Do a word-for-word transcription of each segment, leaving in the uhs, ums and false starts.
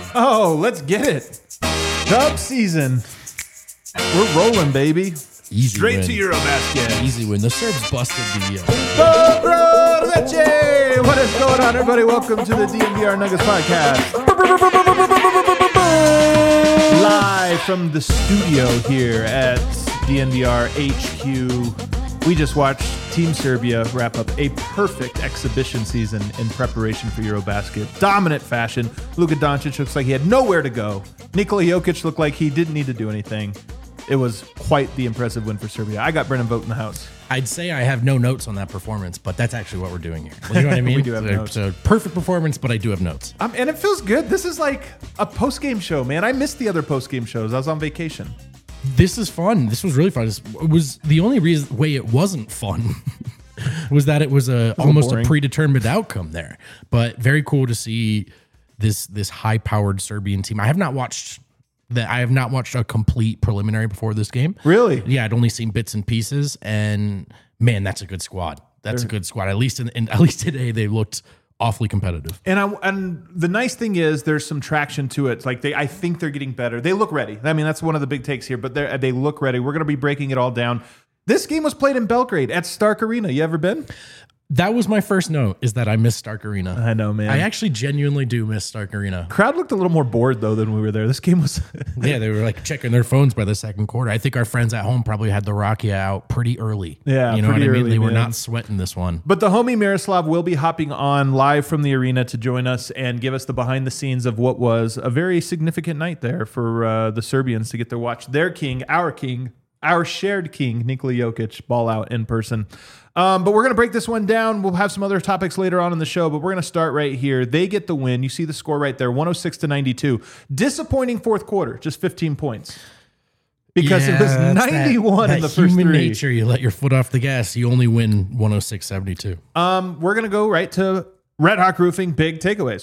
Oh, let's get it. Dub season. We're rolling, baby. Easy Straight win. to Eurobasket. Easy win. The Serbs busted the... Uh, Dobro Leche! What is going on, everybody? Welcome to the D N V R Nuggets podcast. Live from the studio here at D N V R H Q. We just watched Team Serbia wrap up a perfect exhibition season in preparation for Eurobasket. Dominant fashion. Luka Doncic looks like he had nowhere to go. Nikola Jokic looked like he didn't need to do anything. It was quite the impressive win for Serbia. I got Brennan Vogt in the house. I'd say I have no notes on that performance, but that's actually what we're doing here. You know what I mean? We do have so, notes. So perfect performance, but I do have notes. Um, and it feels good. This is like a post-game show, man. I missed the other post-game shows. I was on vacation. This is fun. This was really fun. This was the only reason way it wasn't fun was that it was a almost a predetermined outcome there. But very cool to see this this high-powered Serbian team. I have not watched that. I have not watched a complete preliminary before this game. Really? Yeah, I'd only seen bits and pieces. And man, that's a good squad. That's They're, a good squad. At least in, in at least today, they looked awfully competitive. And I and the nice thing is there's some traction to it. Like they, I think they're getting better. They look ready. I mean, that's one of the big takes here. But they they look ready. We're going to be breaking it all down. This game was played in Belgrade at Stark Arena. You ever been? That was my first note, is that I miss Stark Arena. I know, man. I actually genuinely do miss Stark Arena. Crowd looked a little more bored, though, than we were there. This game was... Yeah, they were like checking their phones by the second quarter. I think our friends at home probably had the Rakia out pretty early. Yeah, You know what I mean? early, They were man. not sweating this one. But the homie Miroslav will be hopping on live from the arena to join us and give us the behind the scenes of what was a very significant night there for uh, the Serbians to get to watch their king, our king, our shared king, Nikola Jokic, ball out in person. Um, but we're going to break this one down. We'll have some other topics later on in the show, but we're going to start right here. They get the win. You see the score right there, one oh six to ninety-two. Disappointing fourth quarter, just fifteen points. Because Yeah, it was that's ninety-one that, in the that first human three. nature, you let your foot off the gas, you only win one oh six seventy-two. Um, we're going to go right to Red Hawk Roofing big takeaways.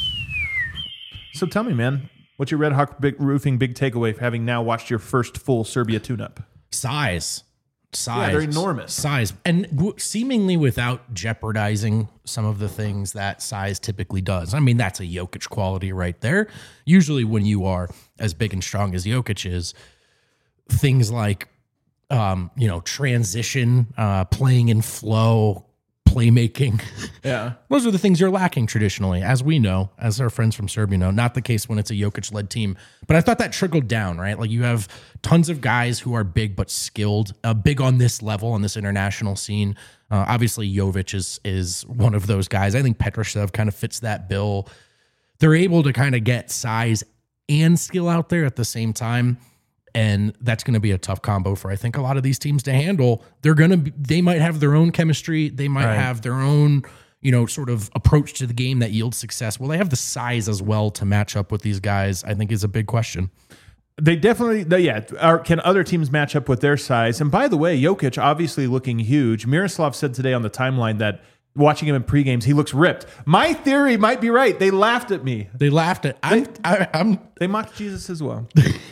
So tell me, man, what's your Red Hawk big Roofing big takeaway for having now watched your first full Serbia tune-up? Size. Size. Yeah, they're enormous. Size. And w- seemingly without jeopardizing some of the things that size typically does. I mean, that's a Jokic quality right there. Usually when you are as big and strong as Jokic is, things like, um, you know, transition, uh, playing in flow, playmaking. Yeah. Those are the things you're lacking traditionally, as we know, as our friends from Serbia know. Not the case when it's a Jokic-led team. But I thought that trickled down, right? Like you have tons of guys who are big but skilled, uh, big on this level, on this international scene. Uh, obviously, Jovic is is one of those guys. I think Petroshev kind of fits that bill. They're able to kind of get size and skill out there at the same time. And that's going to be a tough combo for, I think, a lot of these teams to handle. They're going to be, they might have their own chemistry. They might Right. have their own, you know, sort of approach to the game that yields success. Will they have the size as well to match up with these guys? I think is a big question. They definitely, they, yeah. Are, can other teams match up with their size? And by the way, Jokic obviously looking huge. Miroslav said today on the timeline that watching him in pre-games, he looks ripped. My theory might be right. They laughed at me. They laughed at, I'm, I, I'm, They mocked Jesus as well.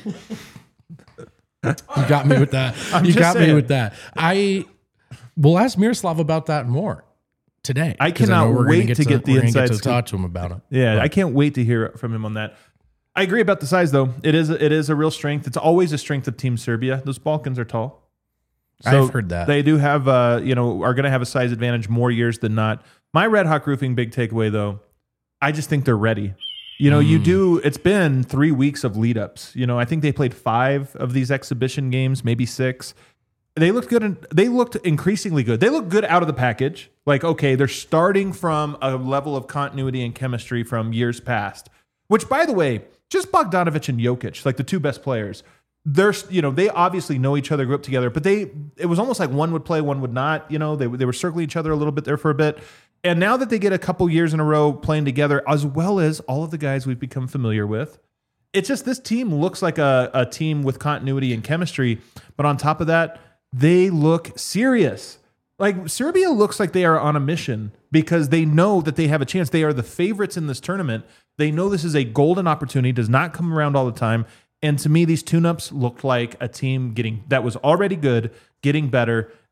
you got me with that. I'm you just got saying. me with that. I will ask Miroslav about that more today. I 'cause cannot know we're gonna wait to get the we're gonna inside get to scoop. talk to him about it. Yeah, But- I can't wait to hear from him on that. I agree about the size, though. It is it is a real strength. It's always a strength of Team Serbia. Those Balkans are tall. I've heard that. They do have, uh, you know, are going to have a size advantage more years than not. My Red Hawk Roofing big takeaway, though, I just think they're ready. You know, Mm. you do, it's been three weeks of lead ups. You know, I think they played five of these exhibition games, maybe six. They looked good. And they looked increasingly good. They look good out of the package. Like, okay, they're starting from a level of continuity and chemistry from years past, which, by the way, just Bogdanovic and Jokic, like the two best players. They're, you know, they obviously know each other, grew up together, but they, it was almost like one would play, one would not. You know, they, they were circling each other a little bit there for a bit. And now that they get a couple years in a row playing together, as well as all of the guys we've become familiar with, it's just this team looks like a, a team with continuity and chemistry. But on top of that, they look serious. Like Serbia looks like they are on a mission because they know that they have a chance. They are the favorites in this tournament. They know this is a golden opportunity, does not come around all the time. And to me, these tune-ups looked like a team getting that was already good, getting better,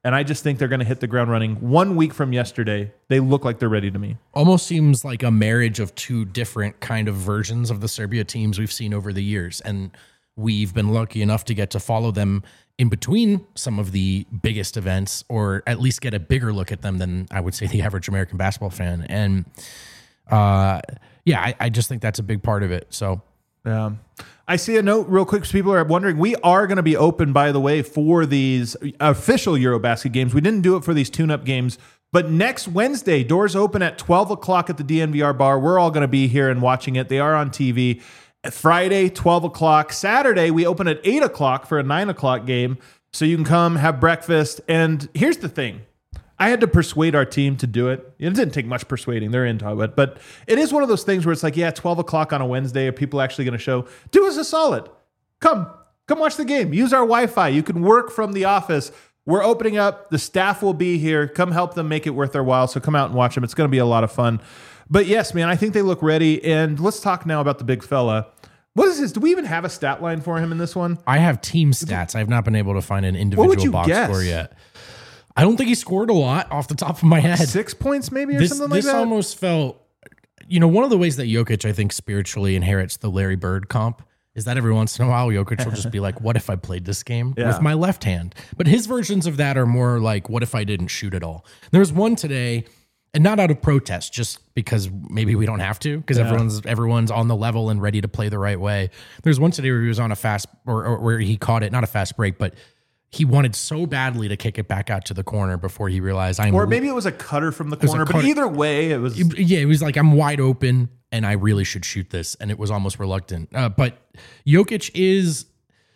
And I just think they're going to hit the ground running. One week from yesterday, they look like they're ready to me. Almost seems like a marriage of two different kind of versions of the Serbia teams we've seen over the years. And we've been lucky enough to get to follow them in between some of the biggest events, or at least get a bigger look at them than I would say the average American basketball fan. And uh, yeah, I, I just think that's a big part of it. So yeah. I see a note real quick. So people are wondering, we are going to be open, by the way, for these official Eurobasket games. We didn't do it for these tune-up games, but next Wednesday, doors open at twelve o'clock at the D N V R bar. We're all going to be here and watching it. They are on T V. Friday, twelve o'clock. Saturday, we open at eight o'clock for a nine o'clock game. So you can come, have breakfast. And here's the thing. I had to persuade our team to do it. It didn't take much persuading. They're into it. But it is one of those things where it's like, yeah, twelve o'clock on a Wednesday. Are people actually going to show? Do us a solid. Come. Come watch the game. Use our Wi-Fi. You can work from the office. We're opening up. The staff will be here. Come help them make it worth their while. So come out and watch them. It's going to be a lot of fun. But yes, man, I think they look ready. And let's talk now about the big fella. What is this? Do we even have a stat line for him in this one? I have team stats. I've not been able to find an individual box guess? score yet. I don't think he scored a lot off the top of my head. Six points maybe or this, something like this that? This almost felt, you know, one of the ways that Jokic, I think, spiritually inherits the Larry Bird comp is that every once in a while, Jokic will just be like, what if I played this game yeah. with my left hand? But his versions of that are more like, what if I didn't shoot at all? There was one today, and not out of protest, just because maybe we don't have to, because yeah. everyone's everyone's on the level and ready to play the right way. There's one today where he was on a fast, or, or where he caught it, not a fast break, but he wanted so badly to kick it back out to the corner before he realized I'm. Or maybe it was a cutter from the corner, but either way, it was. Yeah, it was like, I'm wide open and I really should shoot this, and it was almost reluctant. Uh, but Jokic is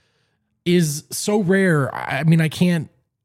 is so rare. I mean, I can't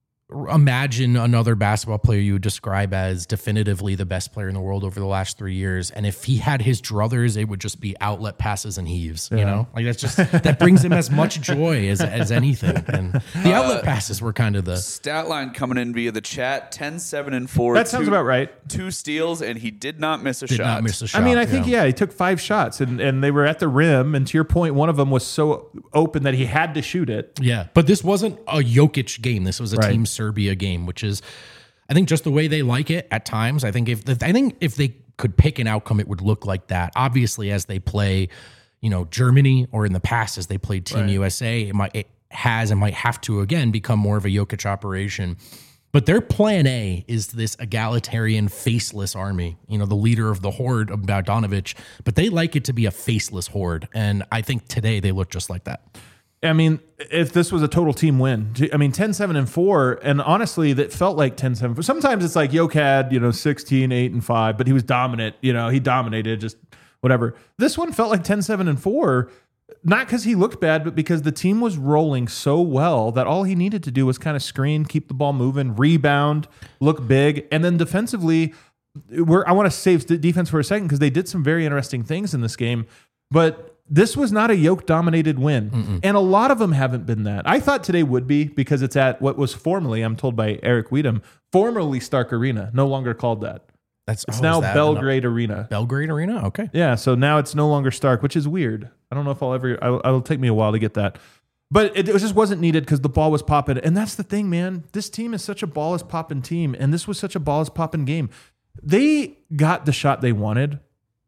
imagine another basketball player you would describe as definitively the best player in the world over the last three years. And if he had his druthers, it would just be outlet passes and heaves, yeah. you know, like that's just, that brings him as much joy as, as anything. And the outlet uh, passes were kind of the stat line coming in via the chat, ten, seven and four. That sounds two, about right. Two steals, and he did not miss a did shot. Not miss a shot. I mean, I think, yeah. yeah, he took five shots and, and they were at the rim. And to your point, one of them was so open that he had to shoot it. Yeah. But this wasn't a Jokic game. This was a right. Team Serbia game, which is, I think, just the way they like it at times. I think if I think if they could pick an outcome, it would look like that. Obviously, as they play, you know, Germany, or in the past as they played Team right. U S A, it might it has and might have to again become more of a Jokic operation. But their plan A is this egalitarian, faceless army. You know, the leader of the horde of Bogdanovic, but they like it to be a faceless horde, and I think today they look just like that. I mean, if this was a total team win, I mean, ten, seven, and four, and honestly, that felt like ten, seven. Sometimes it's like Jokic had, you know, sixteen, eight, and five, but he was dominant. You know, he dominated, just whatever. This one felt like ten, seven, and four, not because he looked bad, but because the team was rolling so well that all he needed to do was kind of screen, keep the ball moving, rebound, look big, and then defensively, we're, I want to save the defense for a second because they did some very interesting things in this game, but this was not a Jokic-dominated win, Mm-mm. and a lot of them haven't been that. I thought today would be because it's at what was formerly, I'm told by Eric Weedham, formerly Stark Arena, no longer called that. That's It's oh, now that Belgrade no, Arena. Belgrade Arena? Okay. Yeah, so now it's no longer Stark, which is weird. I don't know if I'll ever, I, it'll take me a while to get that. But it, it just wasn't needed because the ball was popping. And that's the thing, man. This team is such a ball is popping team, and this was such a ball is popping game. They got the shot they wanted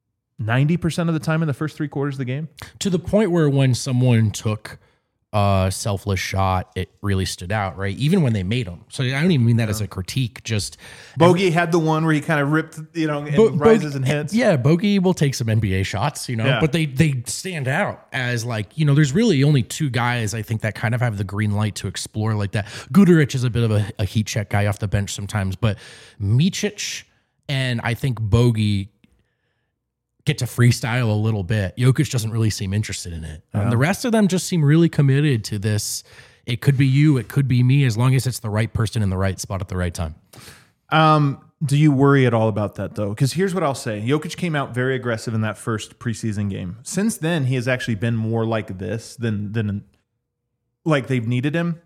ninety percent of the time in the first three quarters of the game. To the point where when someone took a selfless shot, it really stood out, right? Even when they made them. So I don't even mean that yeah. as a critique. Just Bogey had the one where he kind of ripped, you know, and Bo- rises Bo- and hits. Yeah, Bogey will take some N B A shots, you know, yeah. but they they stand out as like, you know, there's really only two guys I think that kind of have the green light to explore like that. Guduric is a bit of a, a heat check guy off the bench sometimes, but Micic and I think Bogey get to freestyle a little bit. Jokic doesn't really seem interested in it. Yeah. Um, the rest of them just seem really committed to this. It could be you, it could be me, as long as it's the right person in the right spot at the right time. Um, do you worry at all about that, though? Because here's what I'll say. Jokic came out very aggressive in that first preseason game. Since then, he has actually been more like this than, than like they've needed him.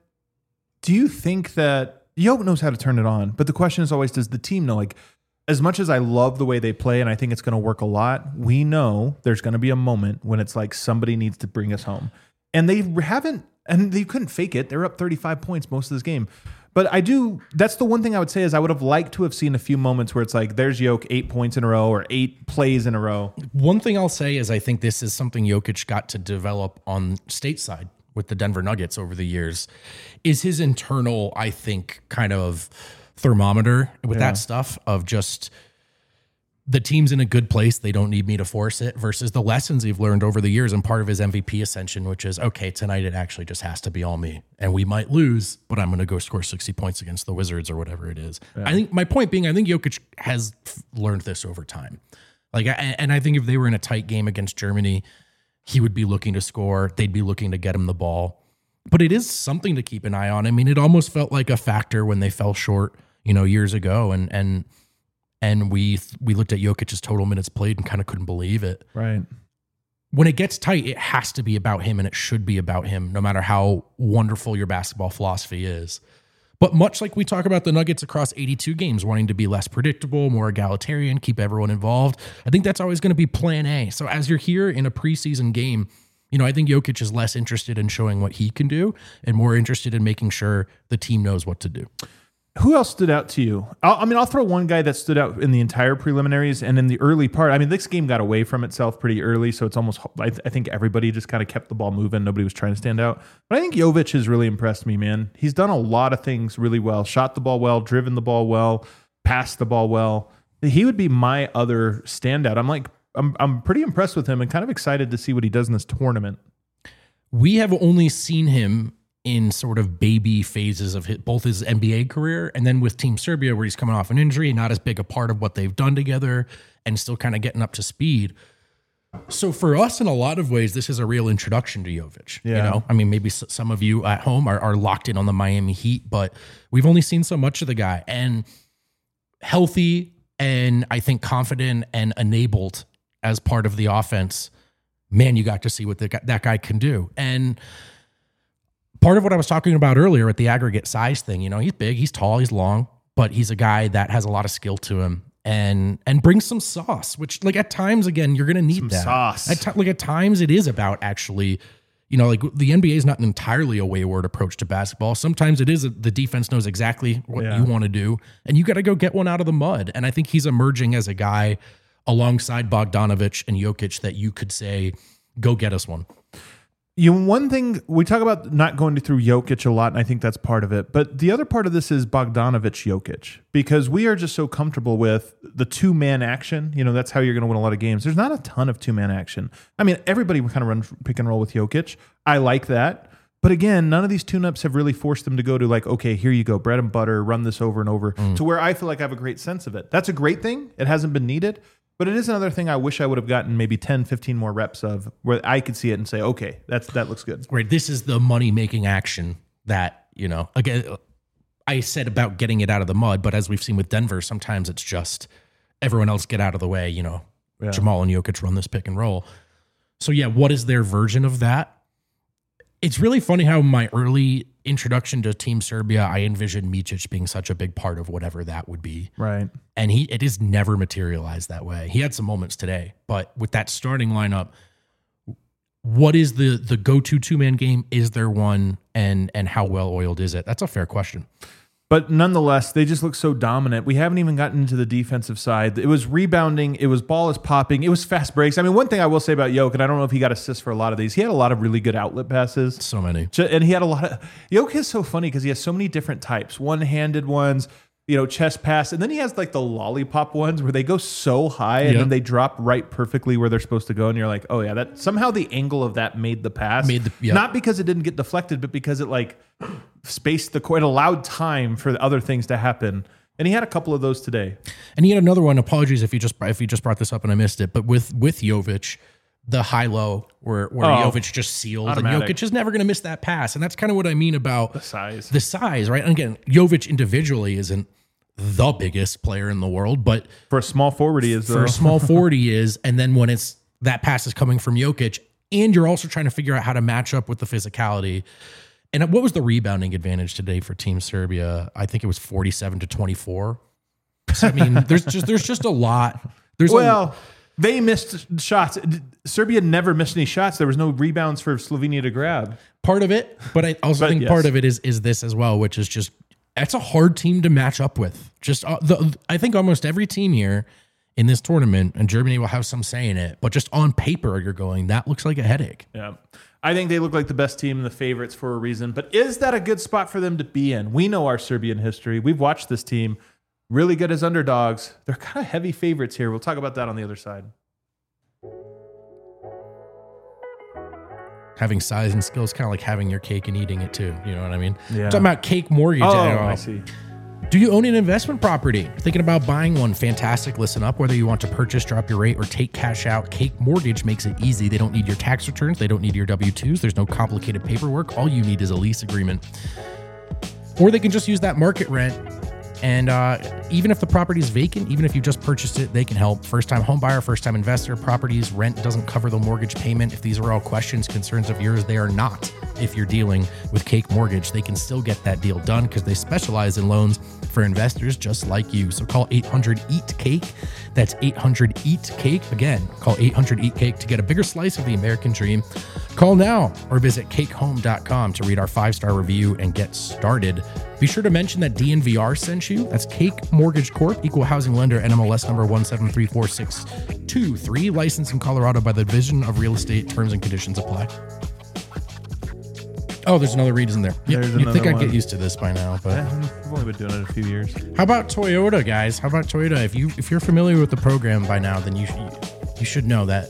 Do you think that Jokic knows how to turn it on? But the question is always, does the team know? Like, as much as I love the way they play and I think it's going to work a lot, we know there's going to be a moment when it's like somebody needs to bring us home. And they haven't, and they couldn't fake it. They're up thirty-five points most of this game. But I do, that's the one thing I would say is I would have liked to have seen a few moments where it's like, there's Jokic eight points in a row or eight plays in a row. One thing I'll say is I think this is something Jokic got to develop on stateside with the Denver Nuggets over the years, is his internal, I think, kind of thermometer with Yeah. that stuff of just the team's in a good place. They don't need me to force it versus the lessons he've learned over the years and part of his M V P ascension, which is, okay, tonight it actually just has to be all me and we might lose, but I'm going to go score sixty points against the Wizards or whatever it is. Yeah. I think my point being, I think Jokic has learned this over time. Like, and I think if they were in a tight game against Germany, he would be looking to score. They'd be looking to get him the ball, but it is something to keep an eye on. I mean, it almost felt like a factor when they fell short, you know, years ago. And, and, And we we looked at Jokic's total minutes played and kind of couldn't believe it. Right. When it gets tight, it has to be about him and it should be about him, no matter how wonderful your basketball philosophy is. But much like we talk about the Nuggets across eighty-two games, wanting to be less predictable, more egalitarian, keep everyone involved, I think that's always going to be plan A. So as you're here in a preseason game, you know, I think Jokic is less interested in showing what he can do and more interested in making sure the team knows what to do. Who else stood out to you? I'll, I mean, I'll throw one guy that stood out in the entire preliminaries and in the early part. I mean, this game got away from itself pretty early, so it's almost, I, th- I think everybody just kind of kept the ball moving. Nobody was trying to stand out. But I think Jovic has really impressed me, man. He's done a lot of things really well. Shot the ball well, driven the ball well, passed the ball well. He would be my other standout. I'm like, I'm, I'm pretty impressed with him and kind of excited to see what he does in this tournament. We have only seen him in sort of baby phases of his, both his N B A career and then with Team Serbia, where he's coming off an injury, not as big a part of what they've done together and still kind of getting up to speed. So for us, in a lot of ways, this is a real introduction to Jovic. Yeah. You know, I mean, maybe s- some of you at home are, are locked in on the Miami Heat, but we've only seen so much of the guy. And healthy and I think confident and enabled as part of the offense, man, you got to see what the, that guy can do. And part of what I was talking about earlier at the aggregate size thing, you know, he's big, he's tall, he's long, but he's a guy that has a lot of skill to him and and brings some sauce, which like at times, again, you're going to need Some that. sauce. At t- like at times it is about actually, you know, like the N B A is not entirely a wayward approach to basketball. Sometimes it is a, the defense knows exactly what Yeah. you want to do and you got to go get one out of the mud. And I think he's emerging as a guy alongside Bogdanovic and Jokic that you could say, go get us one. You one thing we talk about not going through Jokic a lot, and I think that's part of it. But the other part of this is Bogdanovic Jokic, because we are just so comfortable with the two man action. You know, that's how you're going to win a lot of games. There's not a ton of two man action. I mean, everybody kind of runs pick and roll with Jokic. I like that. But again, none of these tune-ups have really forced them to go to like, okay, here you go, bread and butter, run this over and over mm. to where I feel like I have a great sense of it. That's a great thing. It hasn't been needed. But it is another thing I wish I would have gotten maybe ten, fifteen more reps of where I could see it and say, okay, that's that looks good. Right. This is the money-making action that, you know, again, I said about getting it out of the mud, but as we've seen with Denver, sometimes it's just everyone else get out of the way, you know, yeah. Jamal and Jokic run this pick and roll. So yeah, what is their version of that? It's really funny how my early introduction to Team Serbia, I envisioned Micic being such a big part of whatever that would be. Right. And he it is never materialized that way. He had some moments today, but with that starting lineup, what is the the go-to two-man game? Is there one? And and how well-oiled is it? That's a fair question. But nonetheless, they just look so dominant. We haven't even gotten into the defensive side. It was rebounding. It was ball is popping. It was fast breaks. I mean, one thing I will say about Jokic, and I don't know if he got assists for a lot of these, he had a lot of really good outlet passes. So many. And he had a lot of... Jokic is so funny because he has so many different types. One-handed ones, you know, chest pass. And then he has like the lollipop ones where they go so high and yep. then they drop right perfectly where they're supposed to go. And you're like, oh yeah, that somehow the angle of that made the pass. Made the, yep. Not because it didn't get deflected, but because it like spaced the court, allowed time for other things to happen. And he had a couple of those today. And he had another one. Apologies if you just if you just brought this up and I missed it. But with with Jovic, the high-low where, where oh, Jovic just sealed. automatic. And Jokic is never going to miss that pass. And that's kind of what I mean about The size. The size, right? And again, Jovic individually isn't the biggest player in the world, but for a small forward he is. For though. a small forward he is. And then when it's that pass is coming from Jokic, and you're also trying to figure out how to match up with the physicality. And what was the rebounding advantage today for Team Serbia? I think it was forty-seven to twenty-four. So, I mean, there's just there's just a lot. There's well, a, they missed shots. Serbia never missed any shots. There was no rebounds for Slovenia to grab. Part of it, but I also But think yes. part of it is is this as well, which is just That's a hard team to match up with. Just uh, the, I think almost every team here in this tournament, and Germany will have some say in it, but just on paper, you're going, that looks like a headache. Yeah. I think they look like the best team and the favorites for a reason. But is that a good spot for them to be in? We know our Serbian history. We've watched this team. Really good as underdogs. They're kind of heavy favorites here. We'll talk about that on the other side. Having size and skill is kind of like having your cake and eating it too. You know what I mean? Yeah. Talking about Cake Mortgage. Oh, uh, I see. Do you own an investment property? Thinking about buying one? Fantastic. Listen up. Whether you want to purchase, drop your rate, or take cash out, Cake Mortgage makes it easy. They don't need your tax returns. They don't need your W two's. There's no complicated paperwork. All you need is a lease agreement. Or they can just use that market rent. And uh, even if the property is vacant, even if you just purchased it, they can help. First-time home buyer, first-time investor, properties, rent doesn't cover the mortgage payment. If these are all questions, concerns of yours, they are not. If you're dealing with Cake Mortgage, they can still get that deal done because they specialize in loans for investors just like you. So call eight hundred eat cake. That's eight hundred eat cake. Again, call eight hundred eat cake to get a bigger slice of the American dream. Call now or visit cake home dot com to read our five-star review and get started. Be sure to mention that D N V R sent you. That's Cake Mortgage Corp, equal housing lender, N M L S number one seven three four six two three, licensed in Colorado by the Division of Real Estate. Terms and conditions apply. Oh, there's another reason there. Yeah, There's you'd think another I'd get one. used to this by now, but Yeah, I've only been doing it a few years. how about Toyota, guys? How about Toyota? If you if you're familiar with the program by now, then you should, you should know that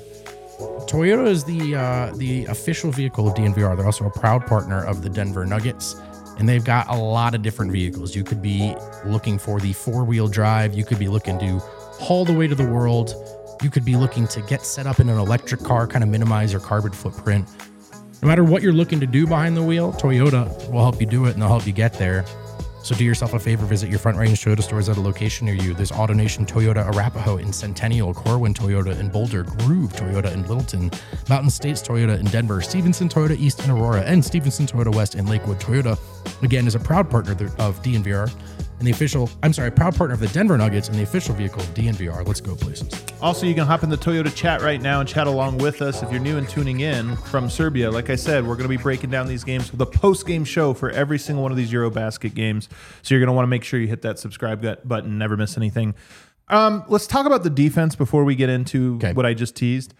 Toyota is the uh, the official vehicle of D N V R. They're also a proud partner of the Denver Nuggets, and they've got a lot of different vehicles. You could be looking for the four-wheel drive. You could be looking to haul the way to the world. You could be looking to get set up in an electric car, kind of minimize your carbon footprint. No matter what you're looking to do behind the wheel, Toyota will help you do it, and they'll help you get there. So do yourself a favor, visit your Front Range Toyota stores at a location near you. There's AutoNation Toyota Arapahoe in Centennial, Corwin Toyota in Boulder, Groove Toyota in Littleton, Mountain States Toyota in Denver, Stevenson Toyota East in Aurora, and Stevenson Toyota West in Lakewood. Toyota, again, is a proud partner of D N V R and the official, I'm sorry, proud partner of the Denver Nuggets and the official vehicle of D N V R. Let's go places. Also, you can hop in the Toyota chat right now and chat along with us if you're new and tuning in from Serbia. Like I said, we're going to be breaking down these games with a post-game show for every single one of these Eurobasket games. So you're going to want to make sure you hit that subscribe button, never miss anything. Um, let's talk about the defense before we get into Okay. what I just teased.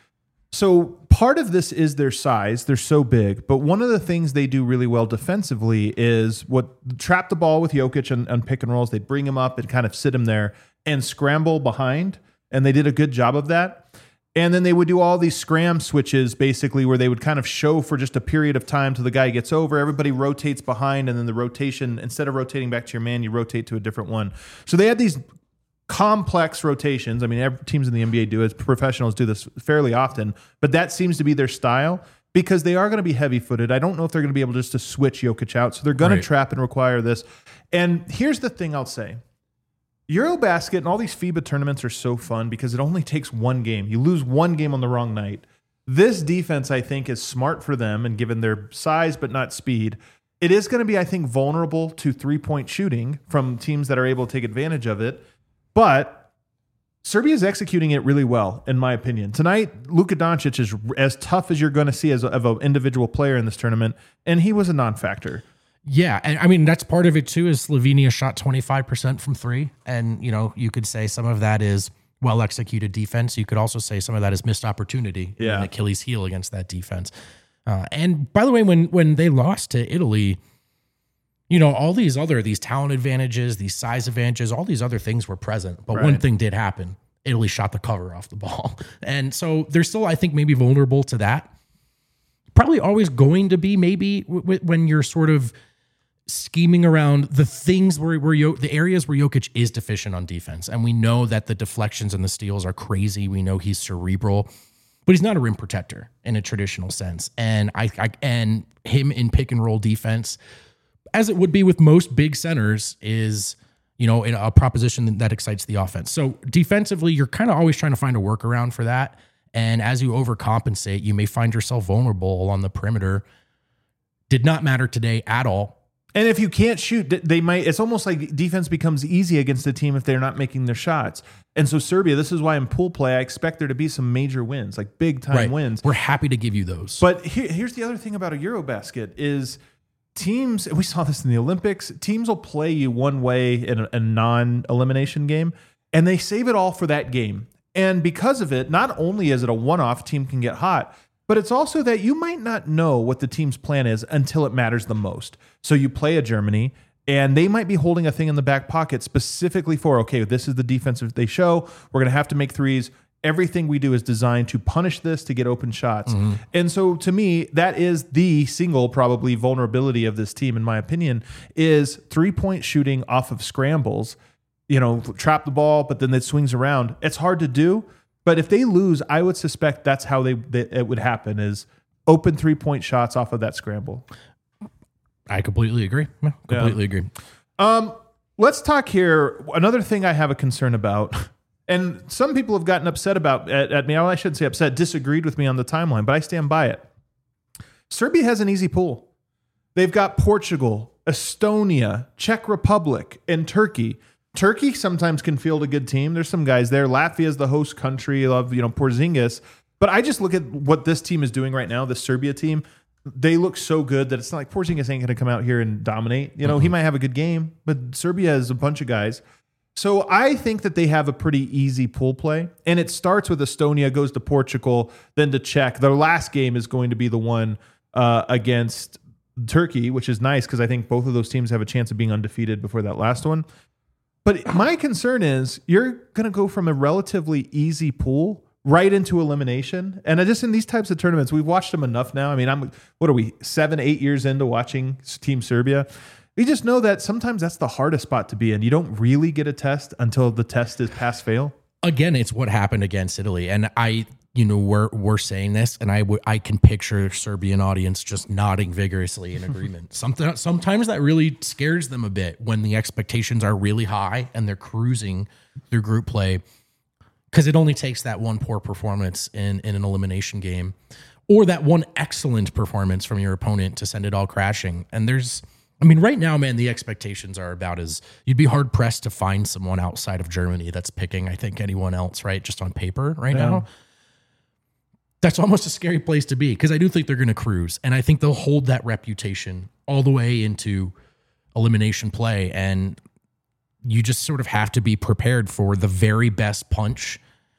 So part of this is their size. They're so big. But one of the things they do really well defensively is what trap the ball with Jokic and, and pick and rolls. They bring him up and kind of sit him there and scramble behind. And they did a good job of that. And then they would do all these scram switches, basically, where they would kind of show for just a period of time till the guy gets over. Everybody rotates behind, and then the rotation, instead of rotating back to your man, you rotate to a different one. So they had these complex rotations. I mean, every, teams in the N B A do it. Professionals do this fairly often, but that seems to be their style because they are going to be heavy-footed. I don't know if they're going to be able just to switch Jokic out, so they're going Right. to trap and require this. And here's the thing I'll say. Eurobasket and all these FIBA tournaments are so fun because it only takes one game. You lose one game on the wrong night. This defense, I think, is smart for them, and given their size but not speed, it is going to be, I think, vulnerable to three-point shooting from teams that are able to take advantage of it. But Serbia is executing it really well, in my opinion. Tonight, Luka Doncic is as tough as you're going to see as a, of an individual player in this tournament, and he was a non-factor. Yeah, and I mean that's part of it too. Is Slovenia shot twenty-five percent from three, and you know you could say some of that is well executed defense. You could also say some of that is missed opportunity, Yeah. an Achilles heel against that defense. Uh, and by the way, when when they lost to Italy, you know all these other these talent advantages, these size advantages, all these other things were present, but one Right. thing did happen: Italy shot the cover off the ball, and so they're still, I think, maybe vulnerable to that. Probably always going to be maybe w- w- when you're sort of scheming around the things where, where Yo- the areas where Jokic is deficient on defense. And we know that the deflections and the steals are crazy. We know he's cerebral, but he's not a rim protector in a traditional sense. And I, I and him in pick and roll defense, as it would be with most big centers, is, you know, in a proposition that excites the offense. So defensively, you're kind of always trying to find a workaround for that. And as you overcompensate, you may find yourself vulnerable on the perimeter. Did not matter today at all. And if you can't shoot, they might. It's almost like defense becomes easy against a team if they're not making their shots. And so Serbia, this is why in pool play, I expect there to be some major wins, like big time Right. wins. We're happy to give you those. But here, here's the other thing about a Eurobasket is teams, we saw this in the Olympics, teams will play you one way in a, a non-elimination game, and they save it all for that game. And because of it, not only is it a one-off, team can get hot, but it's also that you might not know what the team's plan is until it matters the most. So you play a Germany, and they might be holding a thing in the back pocket specifically for, okay, this is the defense they show. We're going to have to make threes. Everything we do is designed to punish this, to get open shots. Mm-hmm. And so to me, that is the single probably vulnerability of this team, in my opinion, is three-point shooting off of scrambles. You know, trap the ball, but then it swings around. It's hard to do. But if they lose, I would suspect that's how they, they it would happen, is open three-point shots off of that scramble. I completely agree. Yeah, completely yeah. agree. Um, let's talk here. Another thing I have a concern about, and some people have gotten upset about at, at me. Well, I shouldn't say upset, disagreed with me on the timeline, but I stand by it. Serbia has an easy pool. They've got Portugal, Estonia, Czech Republic, and Turkey. Turkey sometimes can field a good team. There's some guys there. Latvia is the host country of, you know, Porzingis. But I just look at what this team is doing right now, the Serbia team. They look so good that it's not like Porzingis ain't going to come out here and dominate. You know, mm-hmm. he might have a good game, but Serbia has a bunch of guys. So I think that they have a pretty easy pool play. And it starts with Estonia, goes to Portugal, then to Czech. Their last game is going to be the one uh, against Turkey, which is nice because I think both of those teams have a chance of being undefeated before that last one. But my concern is you're going to go from a relatively easy pool right into elimination. And just in these types of tournaments, we've watched them enough now. I mean, I'm what are we, seven, eight years into watching Team Serbia? We just know that sometimes that's the hardest spot to be in. You don't really get a test until the test is pass-fail. Again, it's what happened against Italy. And I, you know, we're we're saying this, and I w- I can picture a Serbian audience just nodding vigorously in agreement. Something sometimes that really scares them a bit when the expectations are really high and they're cruising through group play, because it only takes that one poor performance in, in an elimination game or that one excellent performance from your opponent to send it all crashing. And there's, I mean, right now, man, the expectations are about as you'd be hard pressed to find someone outside of Germany that's picking, I think, anyone else, right? Just on paper right yeah. now. That's almost a scary place to be, because I do think they're going to cruise, and I think they'll hold that reputation all the way into elimination play. And you just sort of have to be prepared for the very best punch,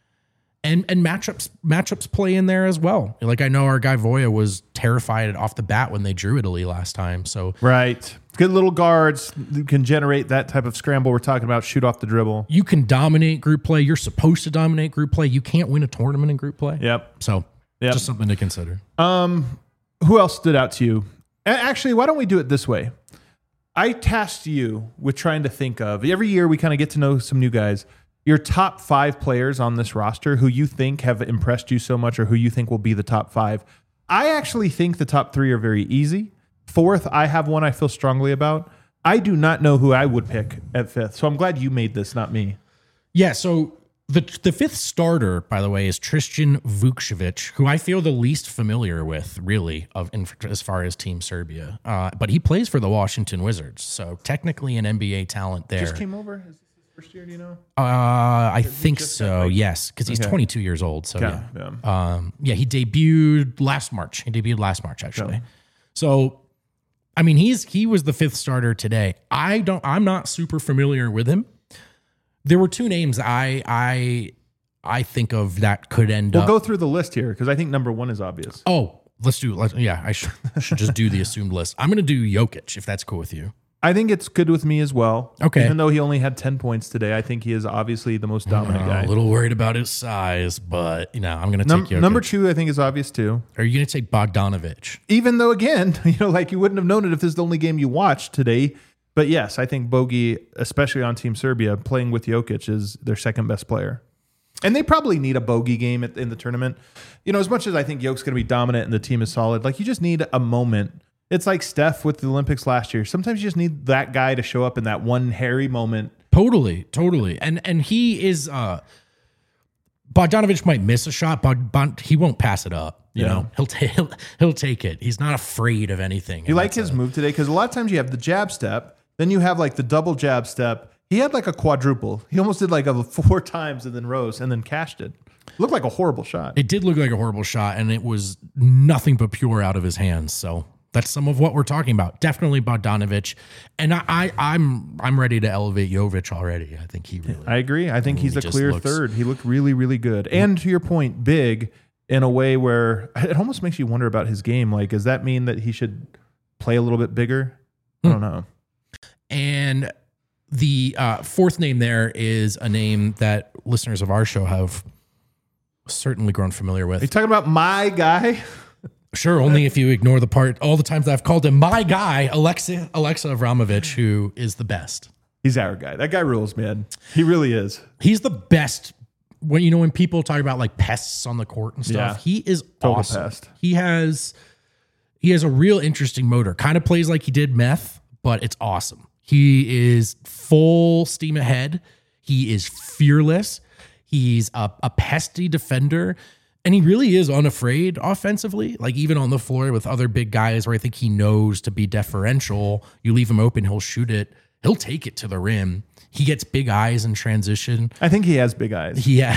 and and matchups matchups play in there as well. Like, I know our guy Voya was terrified off the bat when they drew Italy last time. So right, good little guards can generate that type of scramble we're talking about. Shoot off the dribble. You can dominate group play. You're supposed to dominate group play. You can't win a tournament in group play. Yep. So. Yep. Just something to consider. Um, who else stood out to you? Actually, why don't we do it this way? I tasked you with trying to think of, every year we kind of get to know some new guys, your top five players on this roster who you think have impressed you so much, or who you think will be the top five. I actually think the top three are very easy. Fourth, I have one I feel strongly about. I do not know who I would pick at fifth. So I'm glad you made this, not me. Yeah, so The the fifth starter, by the way, is Tristan Vukcevic, who I feel the least familiar with, really, of in, as far as Team Serbia. Uh, but he plays for the Washington Wizards, so technically an N B A talent there. Just came over? Is this his first year, do you know? Uh, I think so, like, yes, because he's okay. twenty-two years old. So, yeah. Yeah. Um, yeah, he debuted last March. He debuted last March, actually. Yeah. So, I mean, he's he was the fifth starter today. I don't. I'm not super familiar with him. There were two names I I I think of that could end we'll up. We'll go through the list here because I think number one is obvious. Oh, let's do. Let's, yeah, I should, should just do the assumed list. I'm going to do Jokic if that's cool with you. I think it's good with me as well. Okay. Even though he only had ten points today, I think he is obviously the most dominant uh, guy. A little worried about his size, but you know, I'm going to Num- take Jokic. Number two, I think, is obvious too. Are you going to take Bogdanovic? Even though, again, you know, like you wouldn't have known it if this is the only game you watched today. But yes, I think Bogey, especially on Team Serbia, playing with Jokic is their second best player. And they probably need a bogey game at, in the tournament. You know, as much as I think Jokic's going to be dominant and the team is solid, like you just need a moment. It's like Steph with the Olympics last year. Sometimes you just need that guy to show up in that one hairy moment. Totally, totally. And and he is, uh, Bogdanovic might miss a shot, but Bond, he won't pass it up. You yeah. know, he'll, ta- he'll he'll take it. He's not afraid of anything. You like his a, move today? Because a lot of times you have the jab step, then you have like the double jab step. He had like a quadruple. He almost did like a four times and then rose and then cashed it. Looked like a horrible shot. It did look like a horrible shot, and it was nothing but pure out of his hands. So That's some of what we're talking about. Definitely Bogdanovic. And I, I I'm I'm ready to elevate Jovic already. I think he really I agree. I think he's he a just clear looks- third. He looked really, really good. And to your point, big in a way where it almost makes you wonder about his game. Like, does that mean that he should play a little bit bigger? I don't know. And the uh, fourth name there is a name that listeners of our show have certainly grown familiar Are you with. talking about my guy? Sure, only if you ignore the part, all the times I've called him my guy, Alexa, Alexa Avramovic, who is the best. He's our guy. That guy rules, man. He really is. He's the best. When you know when people talk about like pests on the court and stuff, Yeah. he is Total awesome. pest. He has he has a real interesting motor. Kind of plays like he did meth, but it's awesome. He is full steam ahead. He is fearless. He's a, a pesty defender. And he really is unafraid offensively, like even on the floor with other big guys where I think he knows to be deferential. You leave him open, he'll shoot it. He'll take it to the rim. He gets big eyes in transition. I think he has big eyes. Yeah.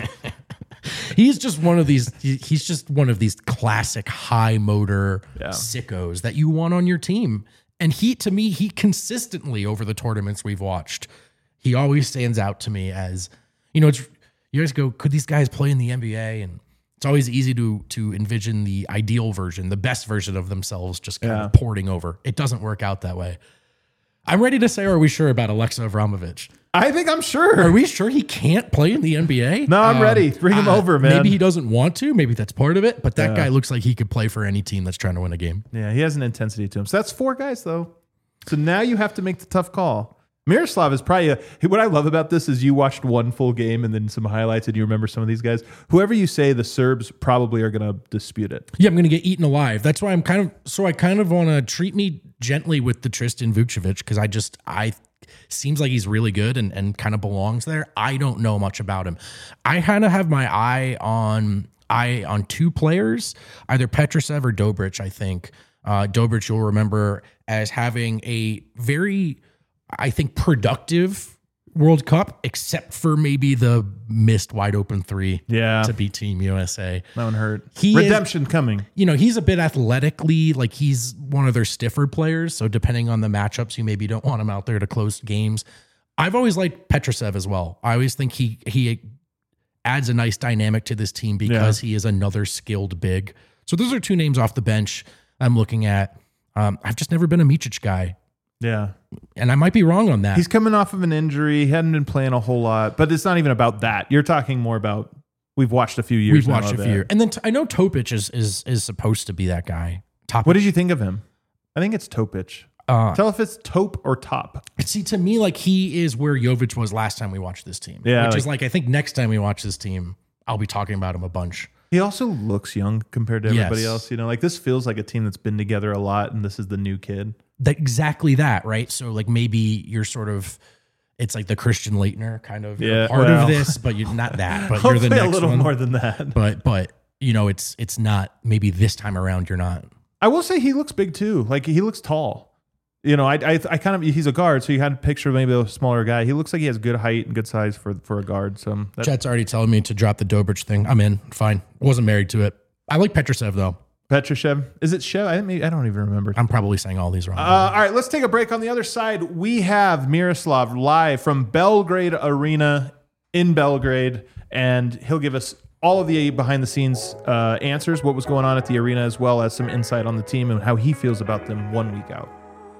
He's just one of these, he's just one of these classic high motor Yeah. sickos that you want on your team. And he, to me, he consistently over the tournaments we've watched, he always stands out to me as, you know, it's, you guys go, could these guys play in the N B A? And it's always easy to to envision the ideal version, the best version of themselves, just kind Yeah. of porting over. It doesn't work out that way. I'm ready to say, are we sure about Alexa Avramovic? I think I'm sure. Are we sure he can't play in the N B A? No, I'm Um, ready. Bring him uh, over, man. Maybe he doesn't want to. Maybe that's part of it. But that Yeah. guy looks like he could play for any team that's trying to win a game. Yeah, he has an intensity to him. So that's four guys, though. So now you have to make the tough call. Miroslav is probably a, what I love about this is you watched one full game and then some highlights and you remember some of these guys. Whoever you say, the Serbs probably are going to dispute it. Yeah, I'm going to get eaten alive. That's why I'm kind of, so I kind of want to treat me gently with the Tristan Vukcevic because I just, I, seems like he's really good and, and kind of belongs there. I don't know much about him. I kind of have my eye on, eye on two players, either Petrushev or Dobric, I think. Uh, Dobric, you'll remember as having a very, I think, productive World Cup, except for maybe the missed wide open three Yeah. to beat Team U S A. That one hurt. He is- Redemption coming. You know, he's a bit athletically, like he's one of their stiffer players. So depending on the matchups, you maybe don't want him out there to close games. I've always liked Petrushev as well. I always think he he adds a nice dynamic to this team because he is another skilled big. So those are two names off the bench I'm looking at. Um, I've just never been a Micic guy. Yeah. And I might be wrong on that. He's coming off of an injury. He hadn't been playing a whole lot, but it's not even about that. You're talking more about we've watched a few years. We've now watched a of few. it. And then t- I know Topic is is is supposed to be that guy. Top. What did you think of him? I think it's Topic. Uh, Tell if it's Tope or Top. See, to me, like he is where Jovic was last time we watched this team. Yeah, Which like- is like, I think next time we watch this team, I'll be talking about him a bunch. He also looks young compared to everybody Yes. else. You know, like this feels like a team that's been together a lot, and this is the new kid. That, exactly that, right? So like maybe you're sort of, it's like the Christian Leitner kind of you're Yeah, part well. of this, but you're not that. But you're Hopefully the next a little one. more than that. But but you know, it's it's not maybe this time around you're not. I will say he looks big too. Like he looks tall. You know, I, I I kind of he's a guard, so you had to picture maybe a smaller guy. He looks like he has good height and good size for for a guard. So that, Chet's already telling me to drop the Dobric thing. I'm in. Fine. Wasn't married to it. I like Petrushev though. Petrushev, is it Shev? I didn't, I don't even remember. I'm probably saying all these wrong. Uh, all right, let's take a break. On the other side, we have Miroslav live from Belgrade Arena in Belgrade, and he'll give us all of the behind the scenes uh, answers, what was going on at the arena, as well as some insight on the team and how he feels about them one week out.